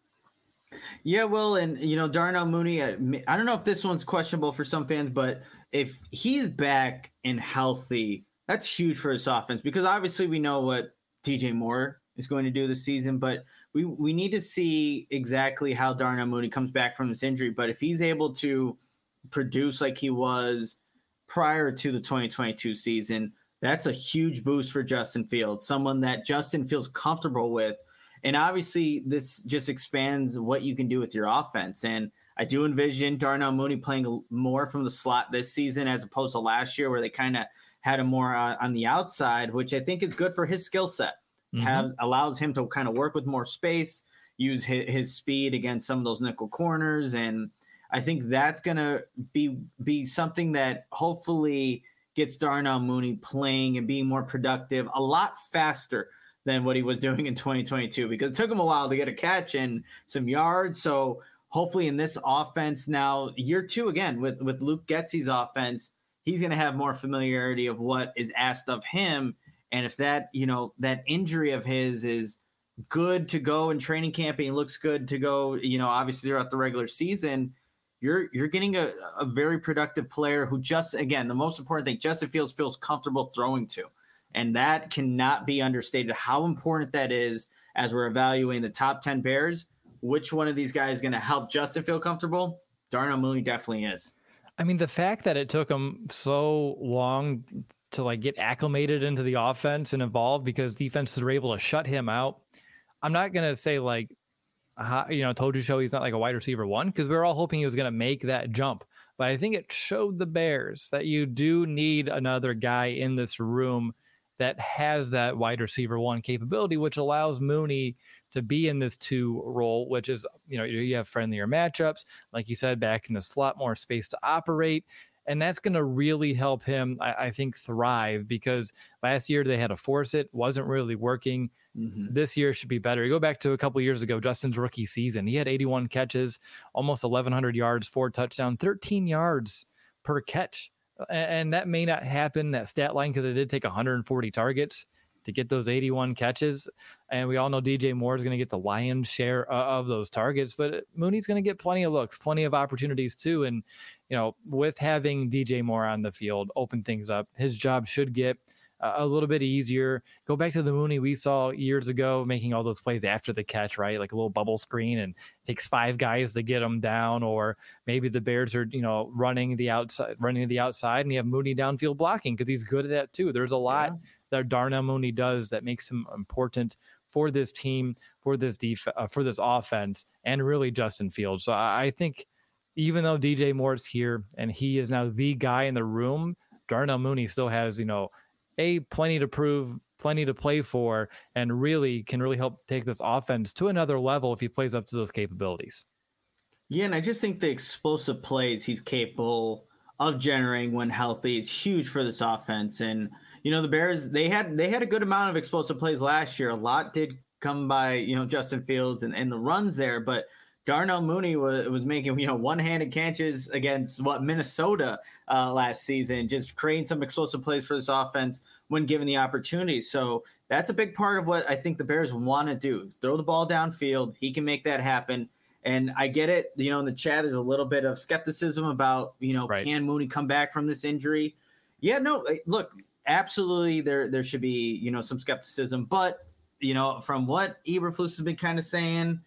Yeah, well, and, you know, Darnell Mooney, I, I don't know if this one's questionable for some fans, but if he's back and healthy, that's huge for his offense, because obviously we know what D J Moore is going to do this season, but we, we need to see exactly how Darnell Mooney comes back from this injury. But if he's able to produce like he was prior to the twenty twenty-two season, that's a huge boost for Justin Fields, someone that Justin feels comfortable with. And obviously this just expands what you can do with your offense. And I do envision Darnell Mooney playing more from the slot this season as opposed to last year, where they kind of had him more uh, on the outside, which I think is good for his skill set. Mm-hmm. Have allows him to kind of work with more space, use his, his speed against some of those nickel corners. And I think that's going to be, be something that hopefully gets Darnell Mooney playing and being more productive a lot faster than what he was doing in twenty twenty-two, because it took him a while to get a catch and some yards. So hopefully in this offense now, year two, again, with, with Luke Getsy's offense, he's going to have more familiarity of what is asked of him. And if that, you know, that injury of his is good to go in training camp and he looks good to go, you know, obviously throughout the regular season, you're, you're getting a, a very productive player who just, again, the most important thing, Justin Fields feels comfortable throwing to. And that cannot be understated, how important that is as we're evaluating the top ten Bears. Which one of these guys is going to help Justin feel comfortable? Darnell Mooney definitely is. I mean, the fact that it took him so long to like get acclimated into the offense and evolve because defenses were able to shut him out. I'm not going to say like, you know, told you so he's not like a wide receiver one, because we were all hoping he was going to make that jump. But I think it showed the Bears that you do need another guy in this room that has that wide receiver one capability, which allows Mooney to be in this two role, which is, you know, you have friendlier matchups, like you said, back in the slot, more space to operate. And that's going to really help him, I, I think, thrive, because last year they had to force it, wasn't really working. Mm-hmm. This year should be better. You go back to a couple of years ago, Justin's rookie season, he had eighty-one catches, almost eleven hundred yards, four touchdowns, thirteen yards per catch. And that may not happen, that stat line, because it did take one hundred forty targets to get those eighty-one catches. And we all know D J Moore is going to get the lion's share of those targets, but Mooney's going to get plenty of looks, plenty of opportunities too. And, you know, with having D J Moore on the field, open things up, his job should get a little bit easier. Go back to the Mooney we saw years ago, making all those plays after the catch, right? Like a little bubble screen, and it takes five guys to get him down. Or maybe the Bears are, you know, running the outside, running to the outside, and you have Mooney downfield blocking, because he's good at that too. There's a lot yeah. that Darnell Mooney does that makes him important for this team, for this def- uh, for this offense, and really Justin Fields. So I, I think even though D J Moore's here and he is now the guy in the room, Darnell Mooney still has, you know, A, plenty to prove, plenty to play for, and really can really help take this offense to another level if he plays up to those capabilities. Yeah, and I just think the explosive plays he's capable of generating when healthy is huge for this offense. And, you know, the Bears, they had they had a good amount of explosive plays last year. A lot did come by, you know, Justin Fields and, and the runs there, but Darnell Mooney was, was making, you know, one-handed catches against what Minnesota uh, last season, just creating some explosive plays for this offense when given the opportunity. So that's a big part of what I think the Bears want to do. Throw the ball downfield. He can make that happen. And I get it. You know, in the chat, there's a little bit of skepticism about, you know, right. Can Mooney come back from this injury? Yeah, no, look, absolutely. There, there should be, you know, some skepticism, but, you know, from what Eberflus has been kind of saying,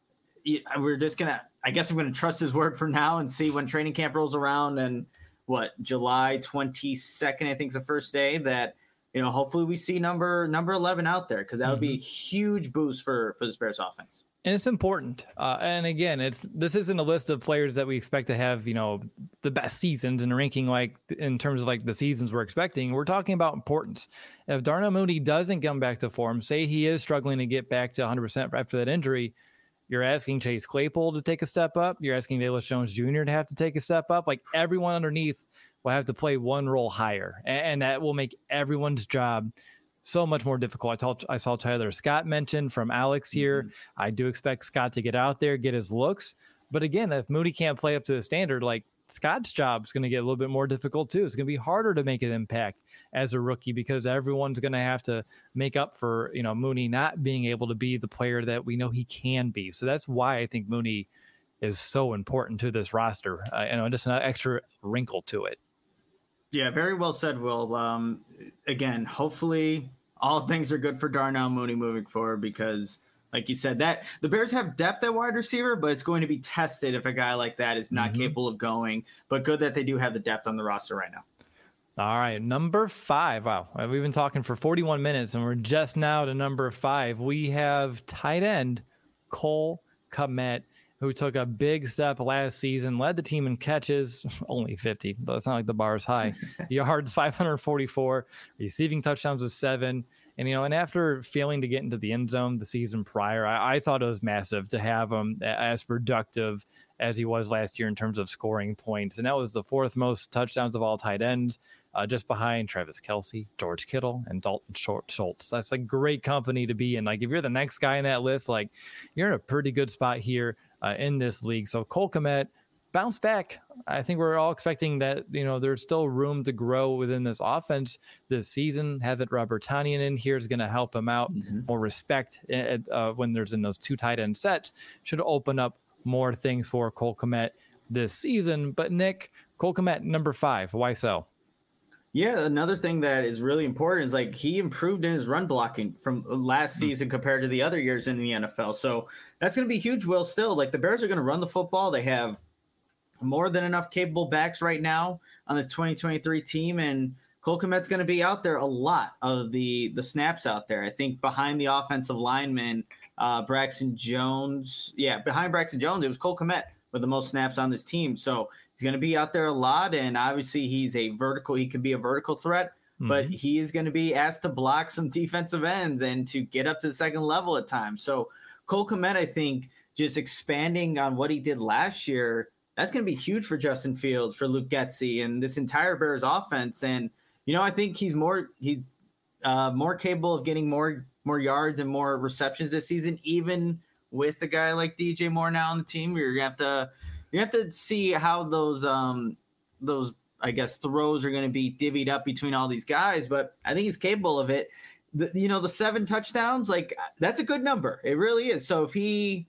we're just going to, I guess I'm going to trust his word for now and see when training camp rolls around, and what, July twenty-second, I think is the first day, that, you know, hopefully we see number, number eleven out there, because that would mm-hmm. be a huge boost for, for the Bears offense. And it's important. Uh, and again, it's, this isn't a list of players that we expect to have, you know, the best seasons and ranking, like in terms of like the seasons we're expecting. We're talking about importance. If Darnell Mooney doesn't come back to form, say he is struggling to get back to one hundred percent after that injury, you're asking Chase Claypool to take a step up. You're asking Velus Jones Junior to have to take a step up. Like, everyone underneath will have to play one role higher, and that will make everyone's job so much more difficult. I, told, I saw Tyler Scott mentioned from Alex here. Mm-hmm. I do expect Scott to get out there, get his looks, But again, if Mooney can't play up to the standard, like Scott's job is going to get a little bit more difficult too. It's going to be harder to make an impact as a rookie because everyone's going to have to make up for, you know, Mooney not being able to be the player that we know he can be. So that's why I think Mooney is so important to this roster. Uh, you know, just an extra wrinkle to it. Yeah, very well said, Will. Um, again, hopefully all things are good for Darnell Mooney moving forward because, like you said, that the Bears have depth at wide receiver, but it's going to be tested if a guy like that is not mm-hmm. capable of going. But good that they do have the depth on the roster right now. All right, number five. Wow, we've been talking for forty-one minutes, and we're just now to number five. We have tight end Cole Kmet, who took a big step last season, led the team in catches, only fifty, but it's not like the bar is high. Yards, five hundred forty-four, receiving touchdowns was seven. And, you know, and after failing to get into the end zone the season prior, I, I thought it was massive to have him as productive as he was last year in terms of scoring points. And that was the fourth most touchdowns of all tight ends, uh, just behind Travis Kelce, George Kittle, and Dalton Schultz. That's a great company to be in. Like, if you're the next guy in that list, like, you're in a pretty good spot here uh, in this league. So Cole Kmet, bounce back. I think we're all expecting that, you know, there's still room to grow within this offense this season. Having Robert Tonyan in here is going to help him out. Mm-hmm. More respect uh, when there's in those two tight end sets should open up more things for Cole Kmet this season. But Nick, Cole Kmet, number five, why so? Yeah, another thing that is really important is like he improved in his run blocking from last season compared to the other years in the N F L. So that's going to be huge, Will, still. Like the Bears are going to run the football. They have more than enough capable backs right now on this twenty twenty-three team, and Cole Kmet's going to be out there a lot of the the snaps out there. I think behind the offensive lineman, uh, Braxton Jones, yeah, behind Braxton Jones, it was Cole Kmet with the most snaps on this team. So he's going to be out there a lot, and obviously he's a vertical. He can be a vertical threat, mm-hmm. but he is going to be asked to block some defensive ends and to get up to the second level at times. So Cole Kmet, I think, just expanding on what he did last year, that's going to be huge for Justin Fields, for Luke Getsy, and this entire Bears offense. And, you know, I think he's more he's uh, more capable of getting more more yards and more receptions this season, even with a guy like D J Moore now on the team. You're gonna have to you have to see how those um those I guess throws are going to be divvied up between all these guys. But I think he's capable of it. The, you know, the seven touchdowns, like that's a good number. It really is. So if he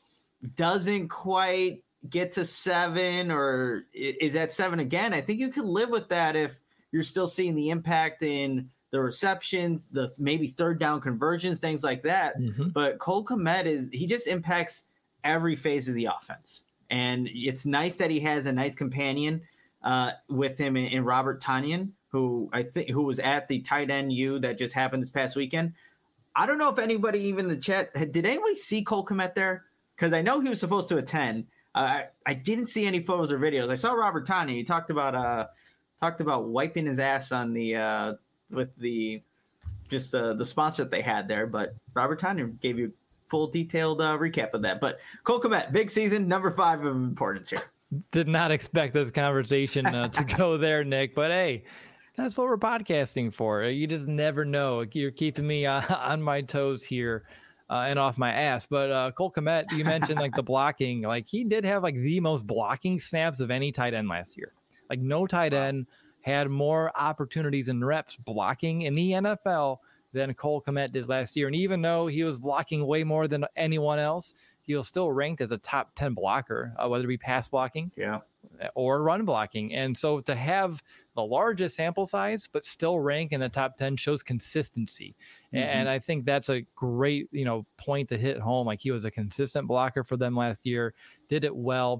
doesn't quite get to seven or is at seven again, I think you can live with that if you're still seeing the impact in the receptions, the maybe third down conversions, things like that. Mm-hmm. But Cole Kmet is, he just impacts every phase of the offense. And it's nice that he has a nice companion uh, with him in, in Robert Tonyan, who I think who was at the tight end U that just happened this past weekend. I don't know if anybody, even in the chat, did anybody see Cole Kmet there? Because I know he was supposed to attend. Uh, I, I didn't see any photos or videos. I saw Robert Tonyan. He talked about uh talked about wiping his ass on the uh, with the just uh, the sponsor that they had there. But Robert Tonyan gave you full detailed uh, recap of that. But Cole Kmet, big season, number five of importance here. Did not expect this conversation uh, to go there, Nick. But hey, that's what we're podcasting for. You just never know. You're keeping me uh, on my toes here. Uh, and off my ass. But uh, Cole Kmet, you mentioned like the blocking, like he did have like the most blocking snaps of any tight end last year. Like no tight end had more opportunities and reps blocking in the N F L than Cole Kmet did last year. And even though he was blocking way more than anyone else, he was still ranked as a top ten blocker, uh, whether it be pass blocking yeah. or run blocking. And so to have the largest sample size, but still rank in the top ten shows consistency. Mm-hmm. And I think that's a great, you know, point to hit home. Like he was a consistent blocker for them last year, did it well.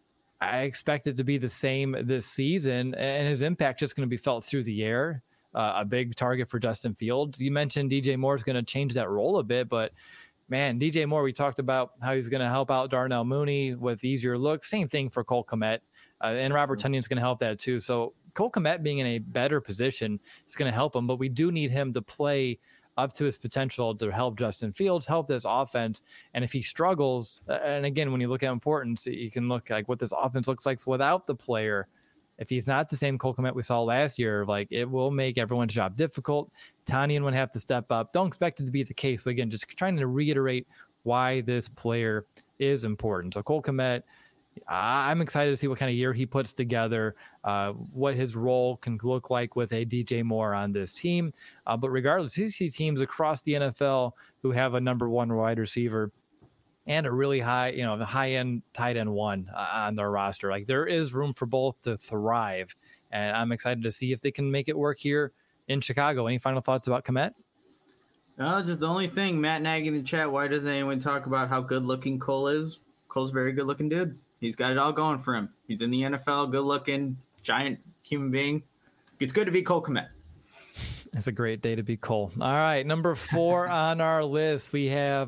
I expect it to be the same this season, and his impact just going to be felt through the air. Uh, a big target for Justin Fields. You mentioned D J Moore is going to change that role a bit, but man, D J Moore, we talked about how he's going to help out Darnell Mooney with easier looks. Same thing for Cole Kmet, uh, and Robert Tonyan is going to help that too. So Cole Kmet being in a better position is going to help him, but we do need him to play up to his potential to help Justin Fields, help this offense. And if he struggles, and again, when you look at importance, you can look like what this offense looks like without the player. If he's not the same Cole Kmet we saw last year, like it will make everyone's job difficult. Tonyan would have to step up. Don't expect it to be the case, but again, just trying to reiterate why this player is important. So Cole Kmet, I'm excited to see what kind of year he puts together, uh, what his role can look like with a D J Moore on this team. Uh, but regardless, you see teams across the N F L who have a number one wide receiver and a really high, you know, high end tight end one uh, on their roster. Like there is room for both to thrive. And I'm excited to see if they can make it work here in Chicago. Any final thoughts about Kmet? No, just the only thing, Matt Nagy in the chat, why doesn't anyone talk about how good looking Cole is? Cole's a very good looking dude. He's got it all going for him. He's in the N F L, good looking, giant human being. It's good to be Cole Kmet. It's a great day to be Cole. All right, number four on our list, we have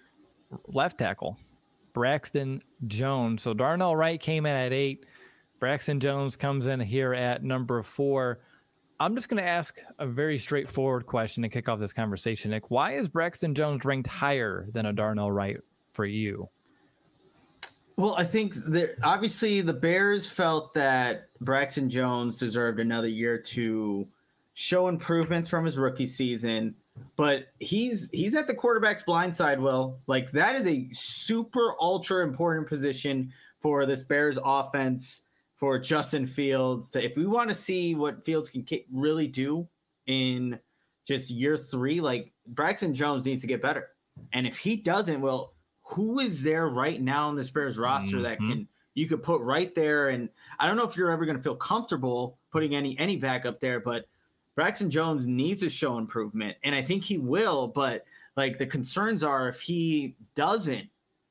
left tackle, Braxton Jones. So Darnell Wright came in at eight. Braxton Jones comes in here at number four. I'm just going to ask a very straightforward question to kick off this conversation, Nick. Why is Braxton Jones ranked higher than a Darnell Wright for you? Well, I think that obviously the Bears felt that Braxton Jones deserved another year to show improvements from his rookie season, but he's he's at the quarterback's blind side, Will. Like that is a super ultra important position for this Bears offense, for Justin Fields. To, if we want to see what Fields can really do in just year three, like Braxton Jones needs to get better. And if he doesn't, well, who is there right now on this Bears roster mm-hmm. that can you could put right there? And I don't know if you're ever going to feel comfortable putting any any backup there, but Braxton Jones needs to show improvement, and I think he will. But like the concerns are if he doesn't,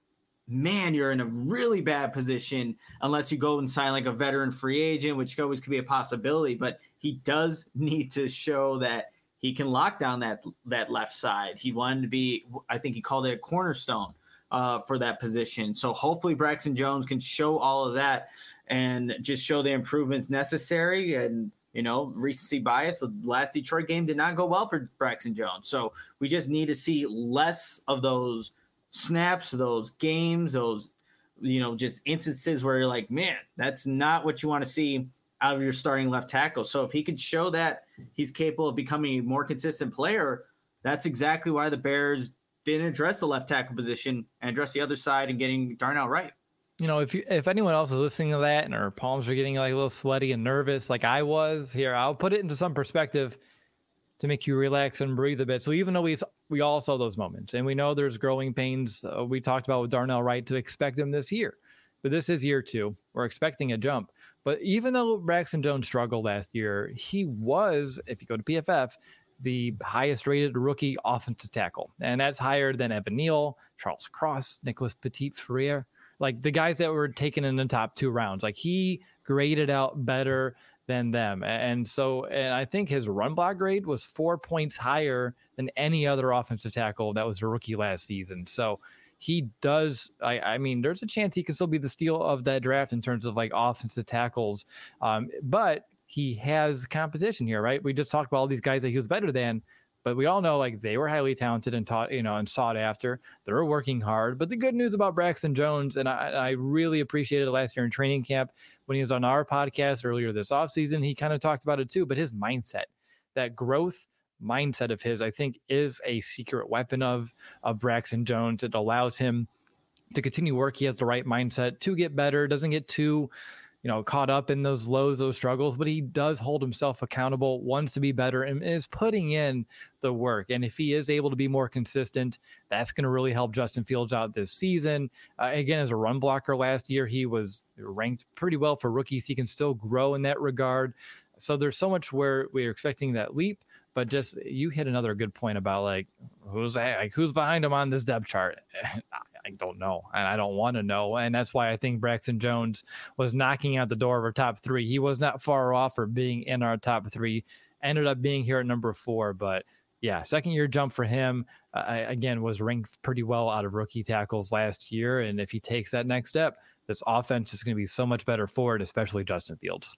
man, you're in a really bad position unless you go and sign like a veteran free agent, which always could be a possibility. But he does need to show that he can lock down that that left side. He wanted to be, I think he called it a cornerstone uh, for that position. So hopefully Braxton Jones can show all of that and just show the improvements necessary. And, you know, recency bias, the last Detroit game did not go well for Braxton Jones. So we just need to see less of those snaps, those games, those, you know, just instances where you're like, man, that's not what you want to see out of your starting left tackle. So if he could show that he's capable of becoming a more consistent player, that's exactly why the Bears didn't address the left tackle position and address the other side and getting Darnell Wright. You know, if you, if anyone else is listening to that and our palms are getting like a little sweaty and nervous, like I was here, I'll put it into some perspective to make you relax and breathe a bit. So even though we we all saw those moments and we know there's growing pains, uh, we talked about with Darnell Wright to expect him this year, but this is year two. We're expecting a jump. But even though Braxton Jones struggled last year, he was, if you go to P F F, the highest rated rookie offensive tackle. And that's higher than Evan Neal, Charles Cross, Nicholas Petit-Frere, like the guys that were taken in the top two rounds. Like he graded out better than them. And so, and I think his run block grade was four points higher than any other offensive tackle that was a rookie last season. So he does, I, I mean, there's a chance he can still be the steal of that draft in terms of like offensive tackles. Um, but he has competition here, right? We just talked about all these guys that he was better than, but we all know like they were highly talented and taught, you know, and sought after. They're working hard. But the good news about Braxton Jones, and I, I really appreciated it last year in training camp when he was on our podcast earlier this offseason, he kind of talked about it too, but his mindset, that growth mindset of his, I think is a secret weapon of, of Braxton Jones. It allows him to continue work. He has the right mindset to get better, doesn't get too, you know, caught up in those lows, those struggles, but he does hold himself accountable, wants to be better, and is putting in the work. And if he is able to be more consistent, that's going to really help Justin Fields out this season. Uh, again, as a run blocker last year, he was ranked pretty well for rookies. He can still grow in that regard. So there's so much where we're expecting that leap, but just you hit another good point about like, who's like, who's behind him on this depth chart? I don't know, and I don't want to know. And that's why I think Braxton Jones was knocking out the door of our top three. He was not far off for being in our top three, ended up being here at number four. But yeah, second year jump for him. Uh, again, was ranked pretty well out of rookie tackles last year. And if he takes that next step, this offense is going to be so much better for it, especially Justin Fields.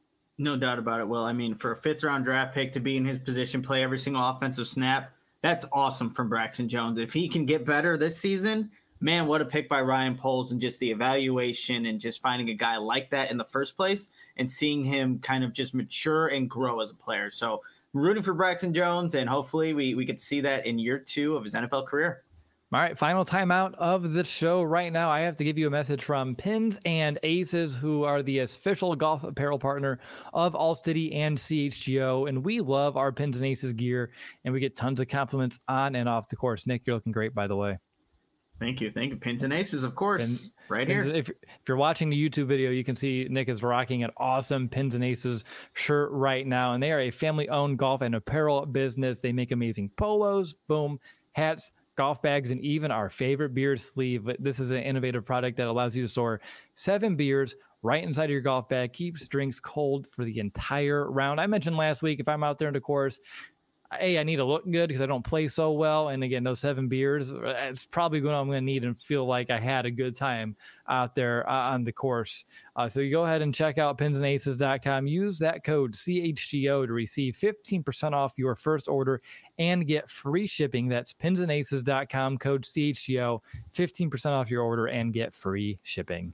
No doubt about it. Well, I mean, for a fifth round draft pick to be in his position, play every single offensive snap, that's awesome from Braxton Jones. If he can get better this season, man, what a pick by Ryan Poles, and just the evaluation and just finding a guy like that in the first place and seeing him kind of just mature and grow as a player. So rooting for Braxton Jones, and hopefully we, we get to see that in year two of his N F L career. All right, final timeout of the show right now. I have to give you a message from Pins and Aces, who are the official golf apparel partner of All City and C H G O. And we love our Pins and Aces gear, and we get tons of compliments on and off the course. Nick, you're looking great, by the way. Thank you. Thank you. Pins and Aces, of course, and, right and here. If, if you're watching the YouTube video, you can see Nick is rocking an awesome Pins and Aces shirt right now. And they are a family-owned golf and apparel business. They make amazing polos, boom, hats, golf bags, and even our favorite beer sleeve. This is an innovative product that allows you to store seven beers right inside of your golf bag, keeps drinks cold for the entire round. I mentioned last week, if I'm out there in the course, hey, I need to look good because I don't play so well. And again, those seven beers, it's probably what I'm going to need and feel like I had a good time out there uh, on the course. Uh, so you go ahead and check out pins and aces dot com. Use that code C H G O to receive fifteen percent off your first order and get free shipping. That's pins and aces dot com, code C H G O, fifteen percent off your order and get free shipping.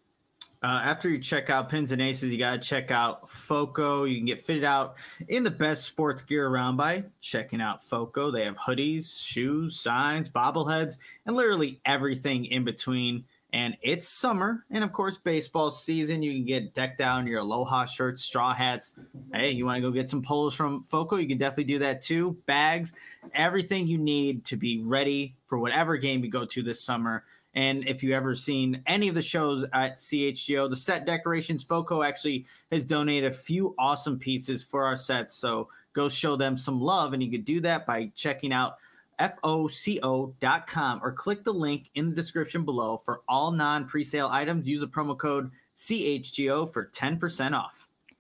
Uh, after you check out Pins and Aces, you got to check out FOCO. You can get fitted out in the best sports gear around by checking out FOCO. They have hoodies, shoes, signs, bobbleheads, and literally everything in between. And it's summer, and of course, baseball season. You can get decked out in your Aloha shirts, straw hats. Hey, you want to go get some polos from FOCO? You can definitely do that too. Bags, everything you need to be ready for whatever game you go to this summer. And if you ever seen any of the shows at C H G O, the set decorations, FOCO actually has donated a few awesome pieces for our sets. So go show them some love. And you could do that by checking out F O C O dot com or click the link in the description below for all non-presale items. Use a promo code C H G O for ten percent off.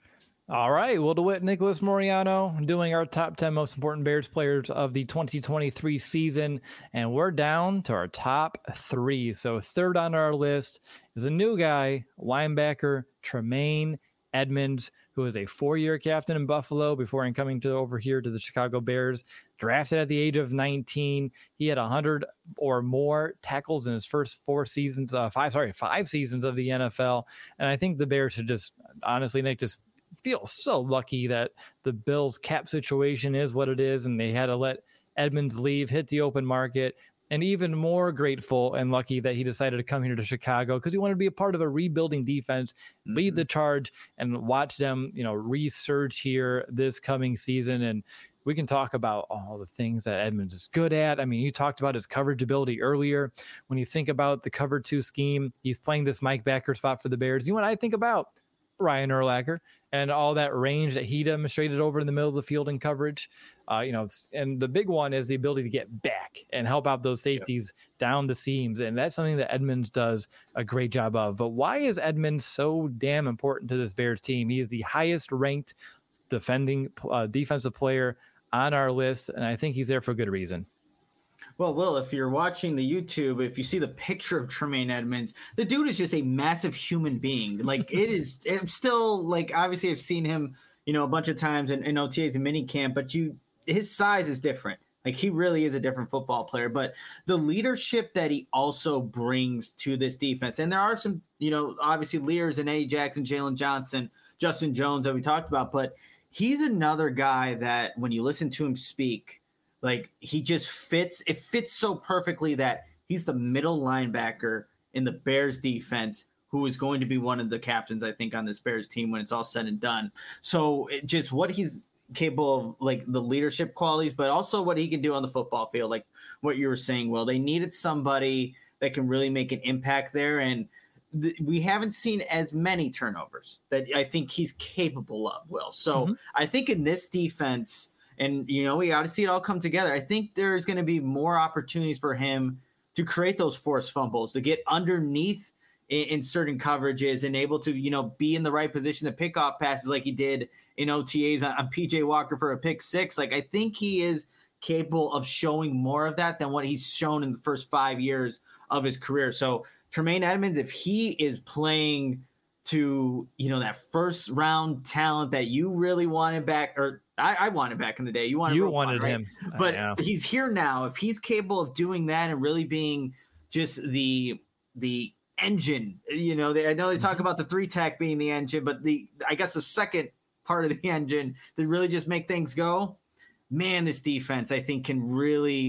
All right, Will DeWitt, Nicholas Moriano doing our top ten most important Bears players of the twenty twenty-three season, and we're down to our top three. So third on our list is a new guy, linebacker Tremaine Edmunds, who is a four-year captain in Buffalo before coming to over here to the Chicago Bears. Drafted at the age of nineteen, he had one hundred or more tackles in his first four seasons, uh, five sorry, five seasons of the N F L, and I think the Bears should just honestly, Nick, just feel so lucky that the Bills cap situation is what it is, and they had to let Edmunds leave, hit the open market, and even more grateful and lucky that he decided to come here to Chicago because he wanted to be a part of a rebuilding defense, mm-hmm. lead the charge, and watch them, you know, resurge here this coming season. And we can talk about all the things that Edmunds is good at. I mean, you talked about his coverage ability earlier. When you think about the cover two scheme, he's playing this Mike backer spot for the Bears. You know what I think about? Ryan Urlacher and all that range that he demonstrated over in the middle of the field in coverage. Uh, you know, and the big one is the ability to get back and help out those safeties yep. down the seams. And that's something that Edmunds does a great job of. But why is Edmunds so damn important to this Bears team? He is the highest ranked defending uh, defensive player on our list. And I think he's there for a good reason. Well, Will, if you're watching the YouTube, if you see the picture of Tremaine Edmunds, the dude is just a massive human being. Like it is, it's still like, obviously I've seen him, you know, a bunch of times in, in O T As and mini camp, but you, his size is different. Like he really is a different football player, but the leadership that he also brings to this defense. And there are some, you know, obviously leaders in Eddie Jackson, Jalen Johnson, Justin Jones that we talked about, but he's another guy that when you listen to him speak, like he just fits, it fits so perfectly that he's the middle linebacker in the Bears defense who is going to be one of the captains, I think, on this Bears team when it's all said and done. So it just what he's capable of, like the leadership qualities, but also what he can do on the football field. Like what you were saying, Will, they needed somebody that can really make an impact there. And th- we haven't seen as many turnovers that I think he's capable of, Will. So mm-hmm. I think in this defense, and, you know, we got to see it all come together. I think there's going to be more opportunities for him to create those forced fumbles, to get underneath in, in certain coverages and able to, you know, be in the right position to pick off passes like he did in O T As on, on P J Walker for a pick six. Like, I think he is capable of showing more of that than what he's shown in the first five years of his career. So Tremaine Edmunds, if he is playing to, you know, that first round talent that you really wanted back, or I, I wanted back in the day. You wanted, you wanted right? him, but he's here now. If he's capable of doing that and really being just the the engine, you know, they, I know they talk about the three tech being the engine, but the I guess the second part of the engine to really just make things go. Man, this defense I think can really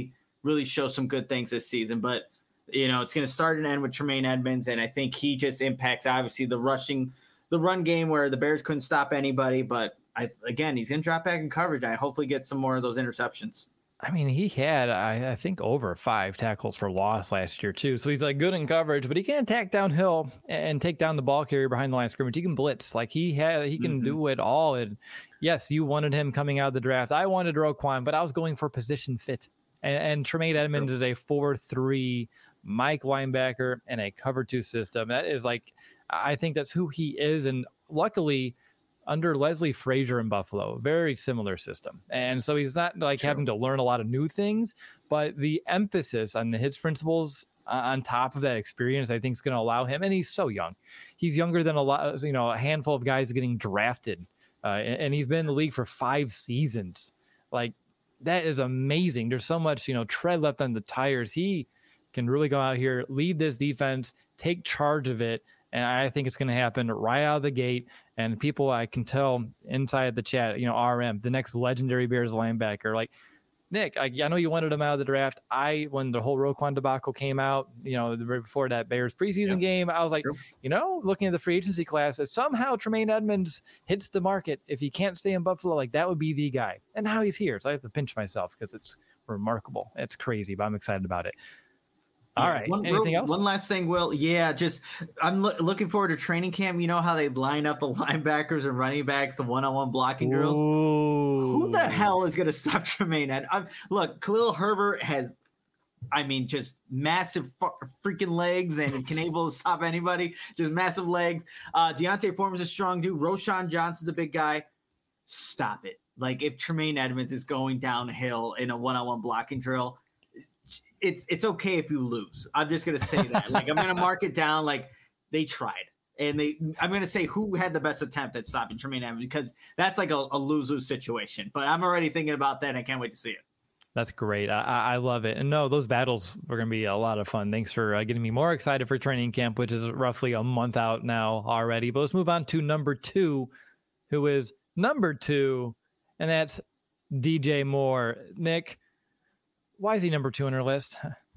really show some good things this season. But, you know, it's going to start and end with Tremaine Edmonds, and I think he just impacts, obviously, the rushing, the run game where the Bears couldn't stop anybody. But, I again, he's going to drop back in coverage. I hopefully get some more of those interceptions. I mean, he had, I, I think, over five tackles for loss last year, too. So he's like good in coverage, but he can attack downhill and take down the ball carrier behind the line of scrimmage. He can blitz. Like he had, he can mm-hmm. do it all. And yes, you wanted him coming out of the draft. I wanted Roquan, but I was going for position fit. And, and Tremaine Edmonds sure. is a four three Mike linebacker and a cover two system. That is like, I think that's who he is. And luckily, under Leslie Frazier in Buffalo, very similar system. And so he's not like True. having to learn a lot of new things, but the emphasis on the hits principles uh, on top of that experience, I think is going to allow him. And he's so young. He's younger than a lot of, you know, a handful of guys getting drafted. Uh, and, and he's been in the league for five seasons. Like that is amazing. There's so much, you know, tread left on the tires. He can really go out here, lead this defense, take charge of it. And I think it's going to happen right out of the gate. And people, I can tell inside the chat, you know, R M, the next legendary Bears linebacker. Like, Nick, I, I know you wanted him out of the draft. I, when the whole Roquan debacle came out, you know, the, before that Bears preseason yeah. game, I was like, sure. you know, looking at the free agency class, that somehow Tremaine Edmonds hits the market. If he can't stay in Buffalo, like that would be the guy. And now he's here. So I have to pinch myself because it's remarkable. It's crazy, but I'm excited about it. All right. One, Anything real, else? One last thing, Will. Yeah, just I'm lo- looking forward to training camp. You know how they line up the linebackers and running backs, the one-on-one blocking drills? Ooh. Who the hell is going to stop Tremaine? And I'm, look, Khalil Herbert has, I mean, just massive fu- freaking legs and can able to stop anybody. Just massive legs. Uh, Deontay Foreman's a strong dude. Roshan Johnson's a big guy. Stop it. Like, if Tremaine Edmonds is going downhill in a one-on-one blocking drill, It's it's okay if you lose. I'm just gonna say that. Like I'm gonna mark it down. Like they tried, and they. I'm gonna say who had the best attempt at stopping Tremaine Edmonds because that's like a, a lose-lose situation. But I'm already thinking about that. And I can't wait to see it. That's great. I, I love it. And no, those battles are gonna be a lot of fun. Thanks for uh, getting me more excited for training camp, which is roughly a month out now already. But let's move on to number two, who is number two, and that's D J Moore. Nick. Why is he number two on our list?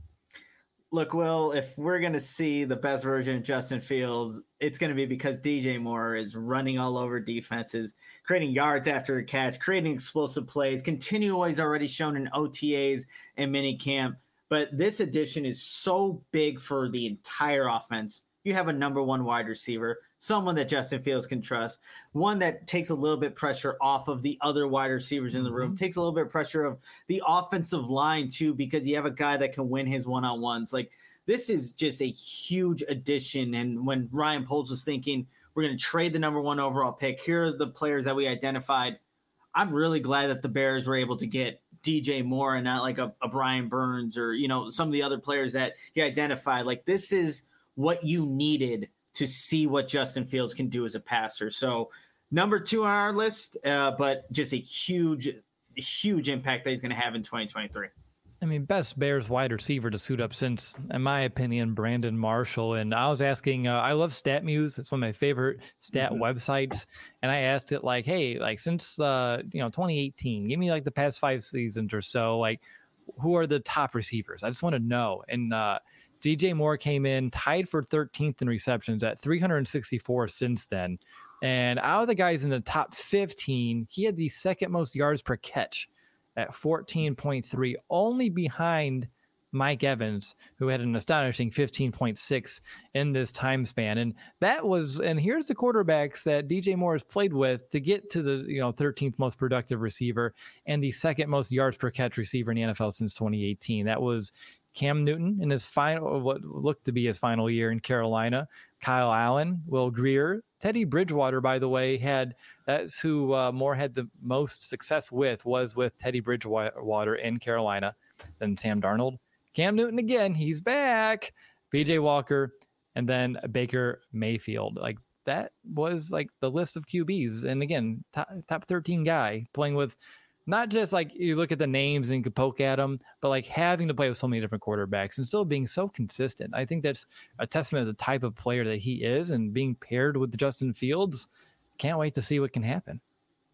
Look, Will, if we're going to see the best version of Justin Fields, it's going to be because D J Moore is running all over defenses, creating yards after a catch, creating explosive plays, continually he's already shown in O T As and minicamp. But this addition is so big for the entire offense. You have a number one wide receiver, someone that Justin Fields can trust, one that takes a little bit pressure off of the other wide receivers in the room, mm-hmm. takes a little bit of pressure of the offensive line too, because you have a guy that can win his one-on-ones. Like this is just a huge addition. And when Ryan Poles was thinking, we're going to trade the number one overall pick, here are the players that we identified. I'm really glad that the Bears were able to get D J Moore and not like a, a Brian Burns or, you know, some of the other players that he identified. Like this is what you needed to see what Justin Fields can do as a passer. So number two on our list, uh, but just a huge, huge impact that he's going to have in twenty twenty-three. I mean, best Bears wide receiver to suit up since, in my opinion, Brandon Marshall. And I was asking, uh, I love StatMuse. It's one of my favorite stat mm-hmm. websites. And I asked it like, hey, like since, uh, you know, twenty eighteen, give me like the past five seasons or so, like who are the top receivers? I just want to know. And, uh, D J Moore came in tied for thirteenth in receptions at three hundred sixty-four since then. And out of the guys in the top fifteen, he had the second most yards per catch at fourteen point three, only behind Mike Evans, who had an astonishing fifteen point six in this time span. And that was, and here's the quarterbacks that D J Moore has played with to get to the, you know, thirteenth most productive receiver and the second most yards per catch receiver in the N F L since twenty eighteen. That was Cam Newton in his final, what looked to be his final year in Carolina, Kyle Allen, Will Grier, Teddy Bridgewater, by the way, had, that's who uh, Moore had the most success with, was with Teddy Bridgewater in Carolina, then Sam Darnold, Cam Newton again, he's back, P J Walker, and then Baker Mayfield. Like that was like the list of Q Bs. And again, top, top thirteen guy playing with, not just like you look at the names and you can poke at them, but like having to play with so many different quarterbacks and still being so consistent. I think that's a testament to the type of player that he is, and being paired with Justin Fields. Can't wait to see what can happen.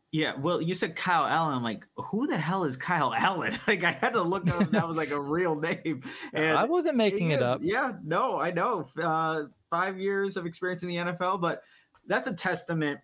Yeah, well, you said Kyle Allen. I'm like, who the hell is Kyle Allen? Like, I had to look up if that was like a real name. And I wasn't making it is, up. Yeah, no, I know. Uh, five years of experience in the N F L, but that's a testament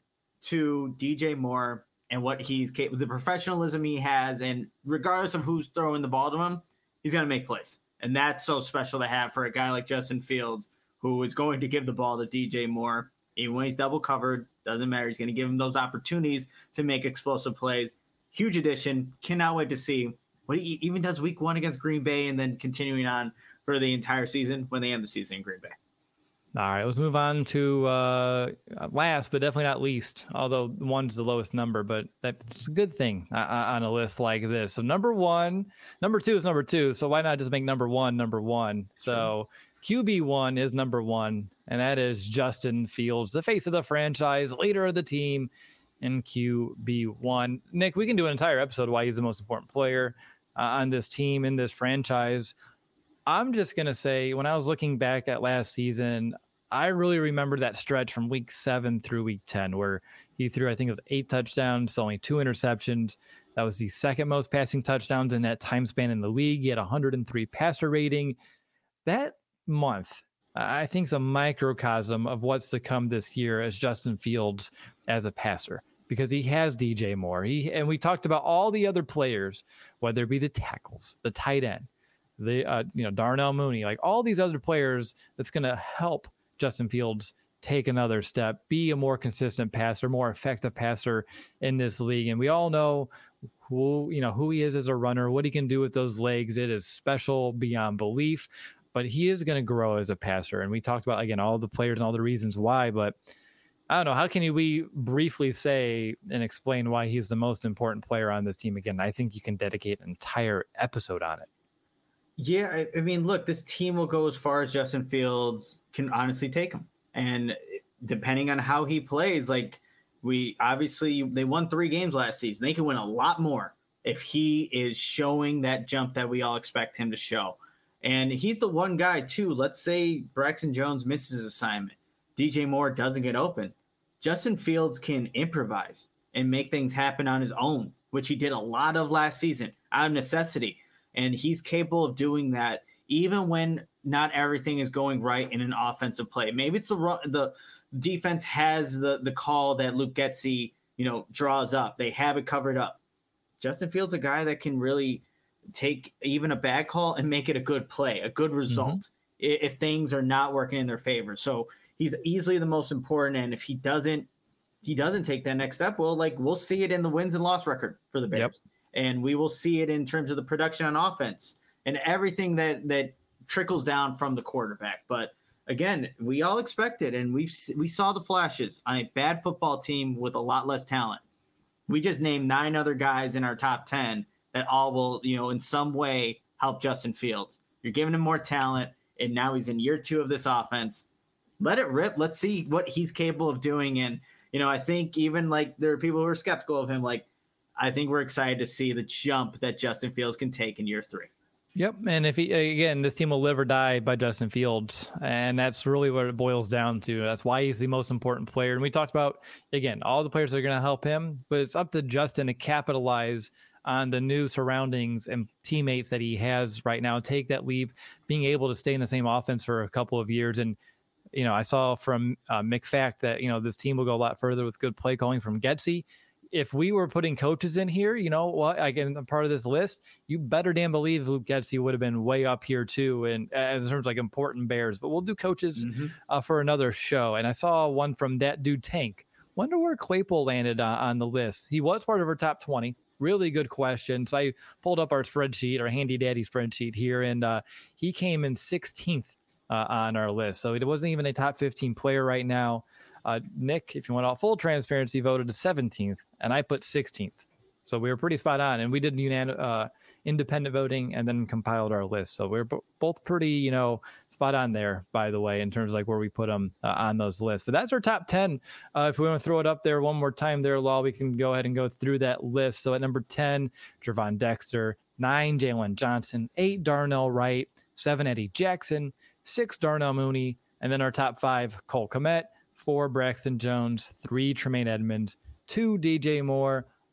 to D J Moore and what he's capable, the professionalism he has, and regardless of who's throwing the ball to him, he's going to make plays. And that's so special to have for a guy like Justin Fields, who is going to give the ball to D J Moore. Even when he's double covered, doesn't matter. He's going to give him those opportunities to make explosive plays. Huge addition. Cannot wait to see what he even does week one against Green Bay and then continuing on for the entire season when they end the season in Green Bay. All right, let's move on to uh, last, but definitely not least, although one's the lowest number, but that's a good thing uh, on a list like this. So number one, number two is number two. So why not just make number one number one? So Q B one is number one, and that is Justin Fields, the face of the franchise, leader of the team, in Q B one. Nick, we can do an entire episode why he's the most important player uh, on this team, in this franchise. I'm just going to say, when I was looking back at last season, I really remember that stretch from week seven through week ten where he threw, I think it was eight touchdowns, only two interceptions. That was the second most passing touchdowns in that time span in the league. He had one hundred three passer rating. That month, I think, is a microcosm of what's to come this year as Justin Fields as a passer, because he has D J Moore. He, and we talked about all the other players, whether it be the tackles, the tight end, the uh, you know Darnell Mooney, like all these other players that's going to help Justin Fields take another step, be a more consistent passer, more effective passer in this league. And we all know who, you know, who he is as a runner, what he can do with those legs. It is special beyond belief, but he is going to grow as a passer. And we talked about, again, all the players and all the reasons why, but I don't know. How can you, we briefly say and explain why he's the most important player on this team? Again, I think you can dedicate an entire episode on it. Yeah, I, I mean, look, this team will go as far as Justin Fields can honestly take him. And depending on how he plays, like we obviously, they won three games last season. They can win a lot more if he is showing that jump that we all expect him to show. And he's the one guy, too. Let's say Braxton Jones misses his assignment. D J Moore doesn't get open. Justin Fields can improvise and make things happen on his own, which he did a lot of last season out of necessity. And he's capable of doing that even when not everything is going right in an offensive play. Maybe it's the the defense has the, the call that Luke Getsy, you know, draws up. They have it covered up. Justin Fields is a guy that can really take even a bad call and make it a good play, a good result, mm-hmm. if things are not working in their favor. So he's easily the most important. And if he doesn't, he doesn't take that next step, well, like we'll see it in the wins and loss record for the Bears. Yep. And we will see it in terms of the production on offense and everything that that trickles down from the quarterback. But again, we all expected, and we we saw the flashes on a bad football team with a lot less talent. We just named nine other guys in our top ten that all will, you know, in some way help Justin Fields. You're giving him more talent, and now he's in year two of this offense. Let it rip. Let's see what he's capable of doing. And, you know, I think even like there are people who are skeptical of him, like, I think we're excited to see the jump that Justin Fields can take in year three. Yep. And if he, again, this team will live or die by Justin Fields. And that's really what it boils down to. That's why he's the most important player. And we talked about, again, all the players that are going to help him, but it's up to Justin to capitalize on the new surroundings and teammates that he has right now, take that leap, being able to stay in the same offense for a couple of years. And, you know, I saw from uh, McFact that, you know, this team will go a lot further with good play calling from Getsy. If we were putting coaches in here, you know what, again, part of this list, you better damn believe Luke Getsy would have been way up here too. And as in terms of like important Bears, but we'll do coaches mm-hmm. uh, for another show. And I saw one from that dude Tank. Wonder where Claypool landed uh, on the list. He was part of our top twenty. Really good question. So I pulled up our spreadsheet, our handy dandy spreadsheet here, and uh, he came in sixteenth uh, on our list. So it wasn't even a top fifteen player right now. Uh, Nick, if you want all full transparency, voted to seventeenth, and I put sixteenth. So we were pretty spot on, and we did unan- uh, independent voting and then compiled our list. So we we're b- both pretty, you know, spot on there, by the way, in terms of like where we put them uh, on those lists. But that's our top ten. Uh, if we want to throw it up there one more time there, Law, we can go ahead and go through that list. So at number ten, Gervon Dexter, nine, Jalen Johnson, eight, Darnell Wright, seven, Eddie Jackson, six, Darnell Mooney, and then our top five, Cole Kmet, four, Braxton Jones, three, Tremaine Edmonds, two, D J Moore,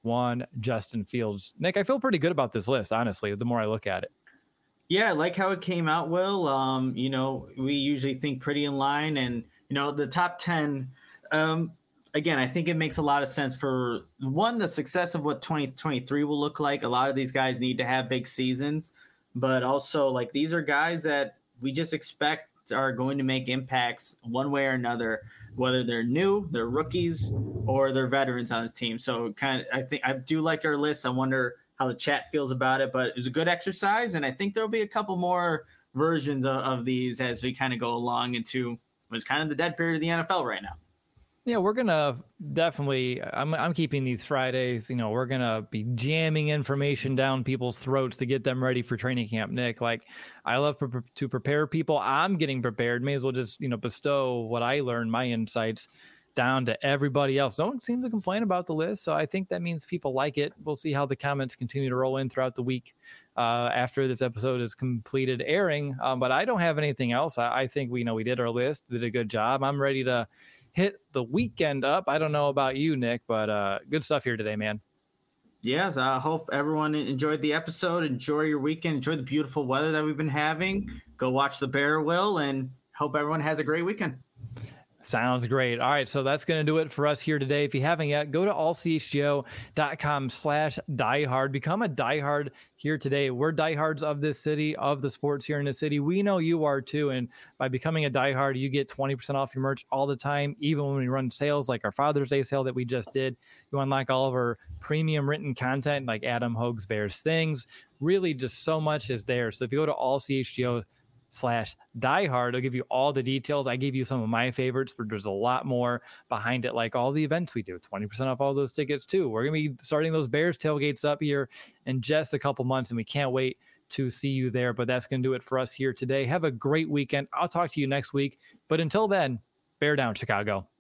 one, Justin Fields. Nick, I feel pretty good about this list, honestly, the more I look at it. Yeah, I like how it came out, Will. Um, you know, we usually think pretty in line, and, you know, the top ten, um, again, I think it makes a lot of sense for, one, the success of what twenty twenty-three will look like. A lot of these guys need to have big seasons, but also, like, these are guys that we just expect are going to make impacts one way or another, whether they're new, they're rookies, or they're veterans on this team. So kind of, I think I do like our list. I wonder how the chat feels about it, but it was a good exercise. And I think there'll be a couple more versions of, of these as we kind of go along into what's kind of the dead period of the N F L right now. Yeah, we're gonna definitely. I'm I'm keeping these Fridays. You know, we're gonna be jamming information down people's throats to get them ready for training camp. Nick, like, I love pre- to prepare people. I'm getting prepared. May as well just, you know, bestow what I learned, my insights, down to everybody else. No one seems to complain about the list, so I think that means people like it. We'll see how the comments continue to roll in throughout the week uh, after this episode is completed airing. Um, but I don't have anything else. I, I think we know we did our list, did a good job. I'm ready to hit the weekend up. I don't know about you, Nick, but uh, good stuff here today, man. Yes, I hope everyone enjoyed the episode. Enjoy your weekend. Enjoy the beautiful weather that we've been having. Go watch the Bear, Will, and hope everyone has a great weekend. Sounds great. All right, so that's going to do it for us here today. If you haven't yet, go to allchgo.com slash diehard. Become a diehard here today. We're diehards of this city, of the sports here in the city. We know you are too, and by becoming a diehard, you get twenty percent off your merch all the time, even when we run sales like our Father's Day sale that we just did. You unlock all of our premium written content like Adam Hogue's Bears Things. Really, just so much is there. So if you go to allchgo slash diehard, I'll give you all the details. I gave you some of my favorites, but there's a lot more behind it, like all the events we do. twenty percent off all those tickets too. We're gonna be starting those Bears tailgates up here in just a couple months, and we can't wait to see you there. But that's gonna do it for us here today. Have a great weekend. I'll talk to you next week, but until then, bear down, Chicago.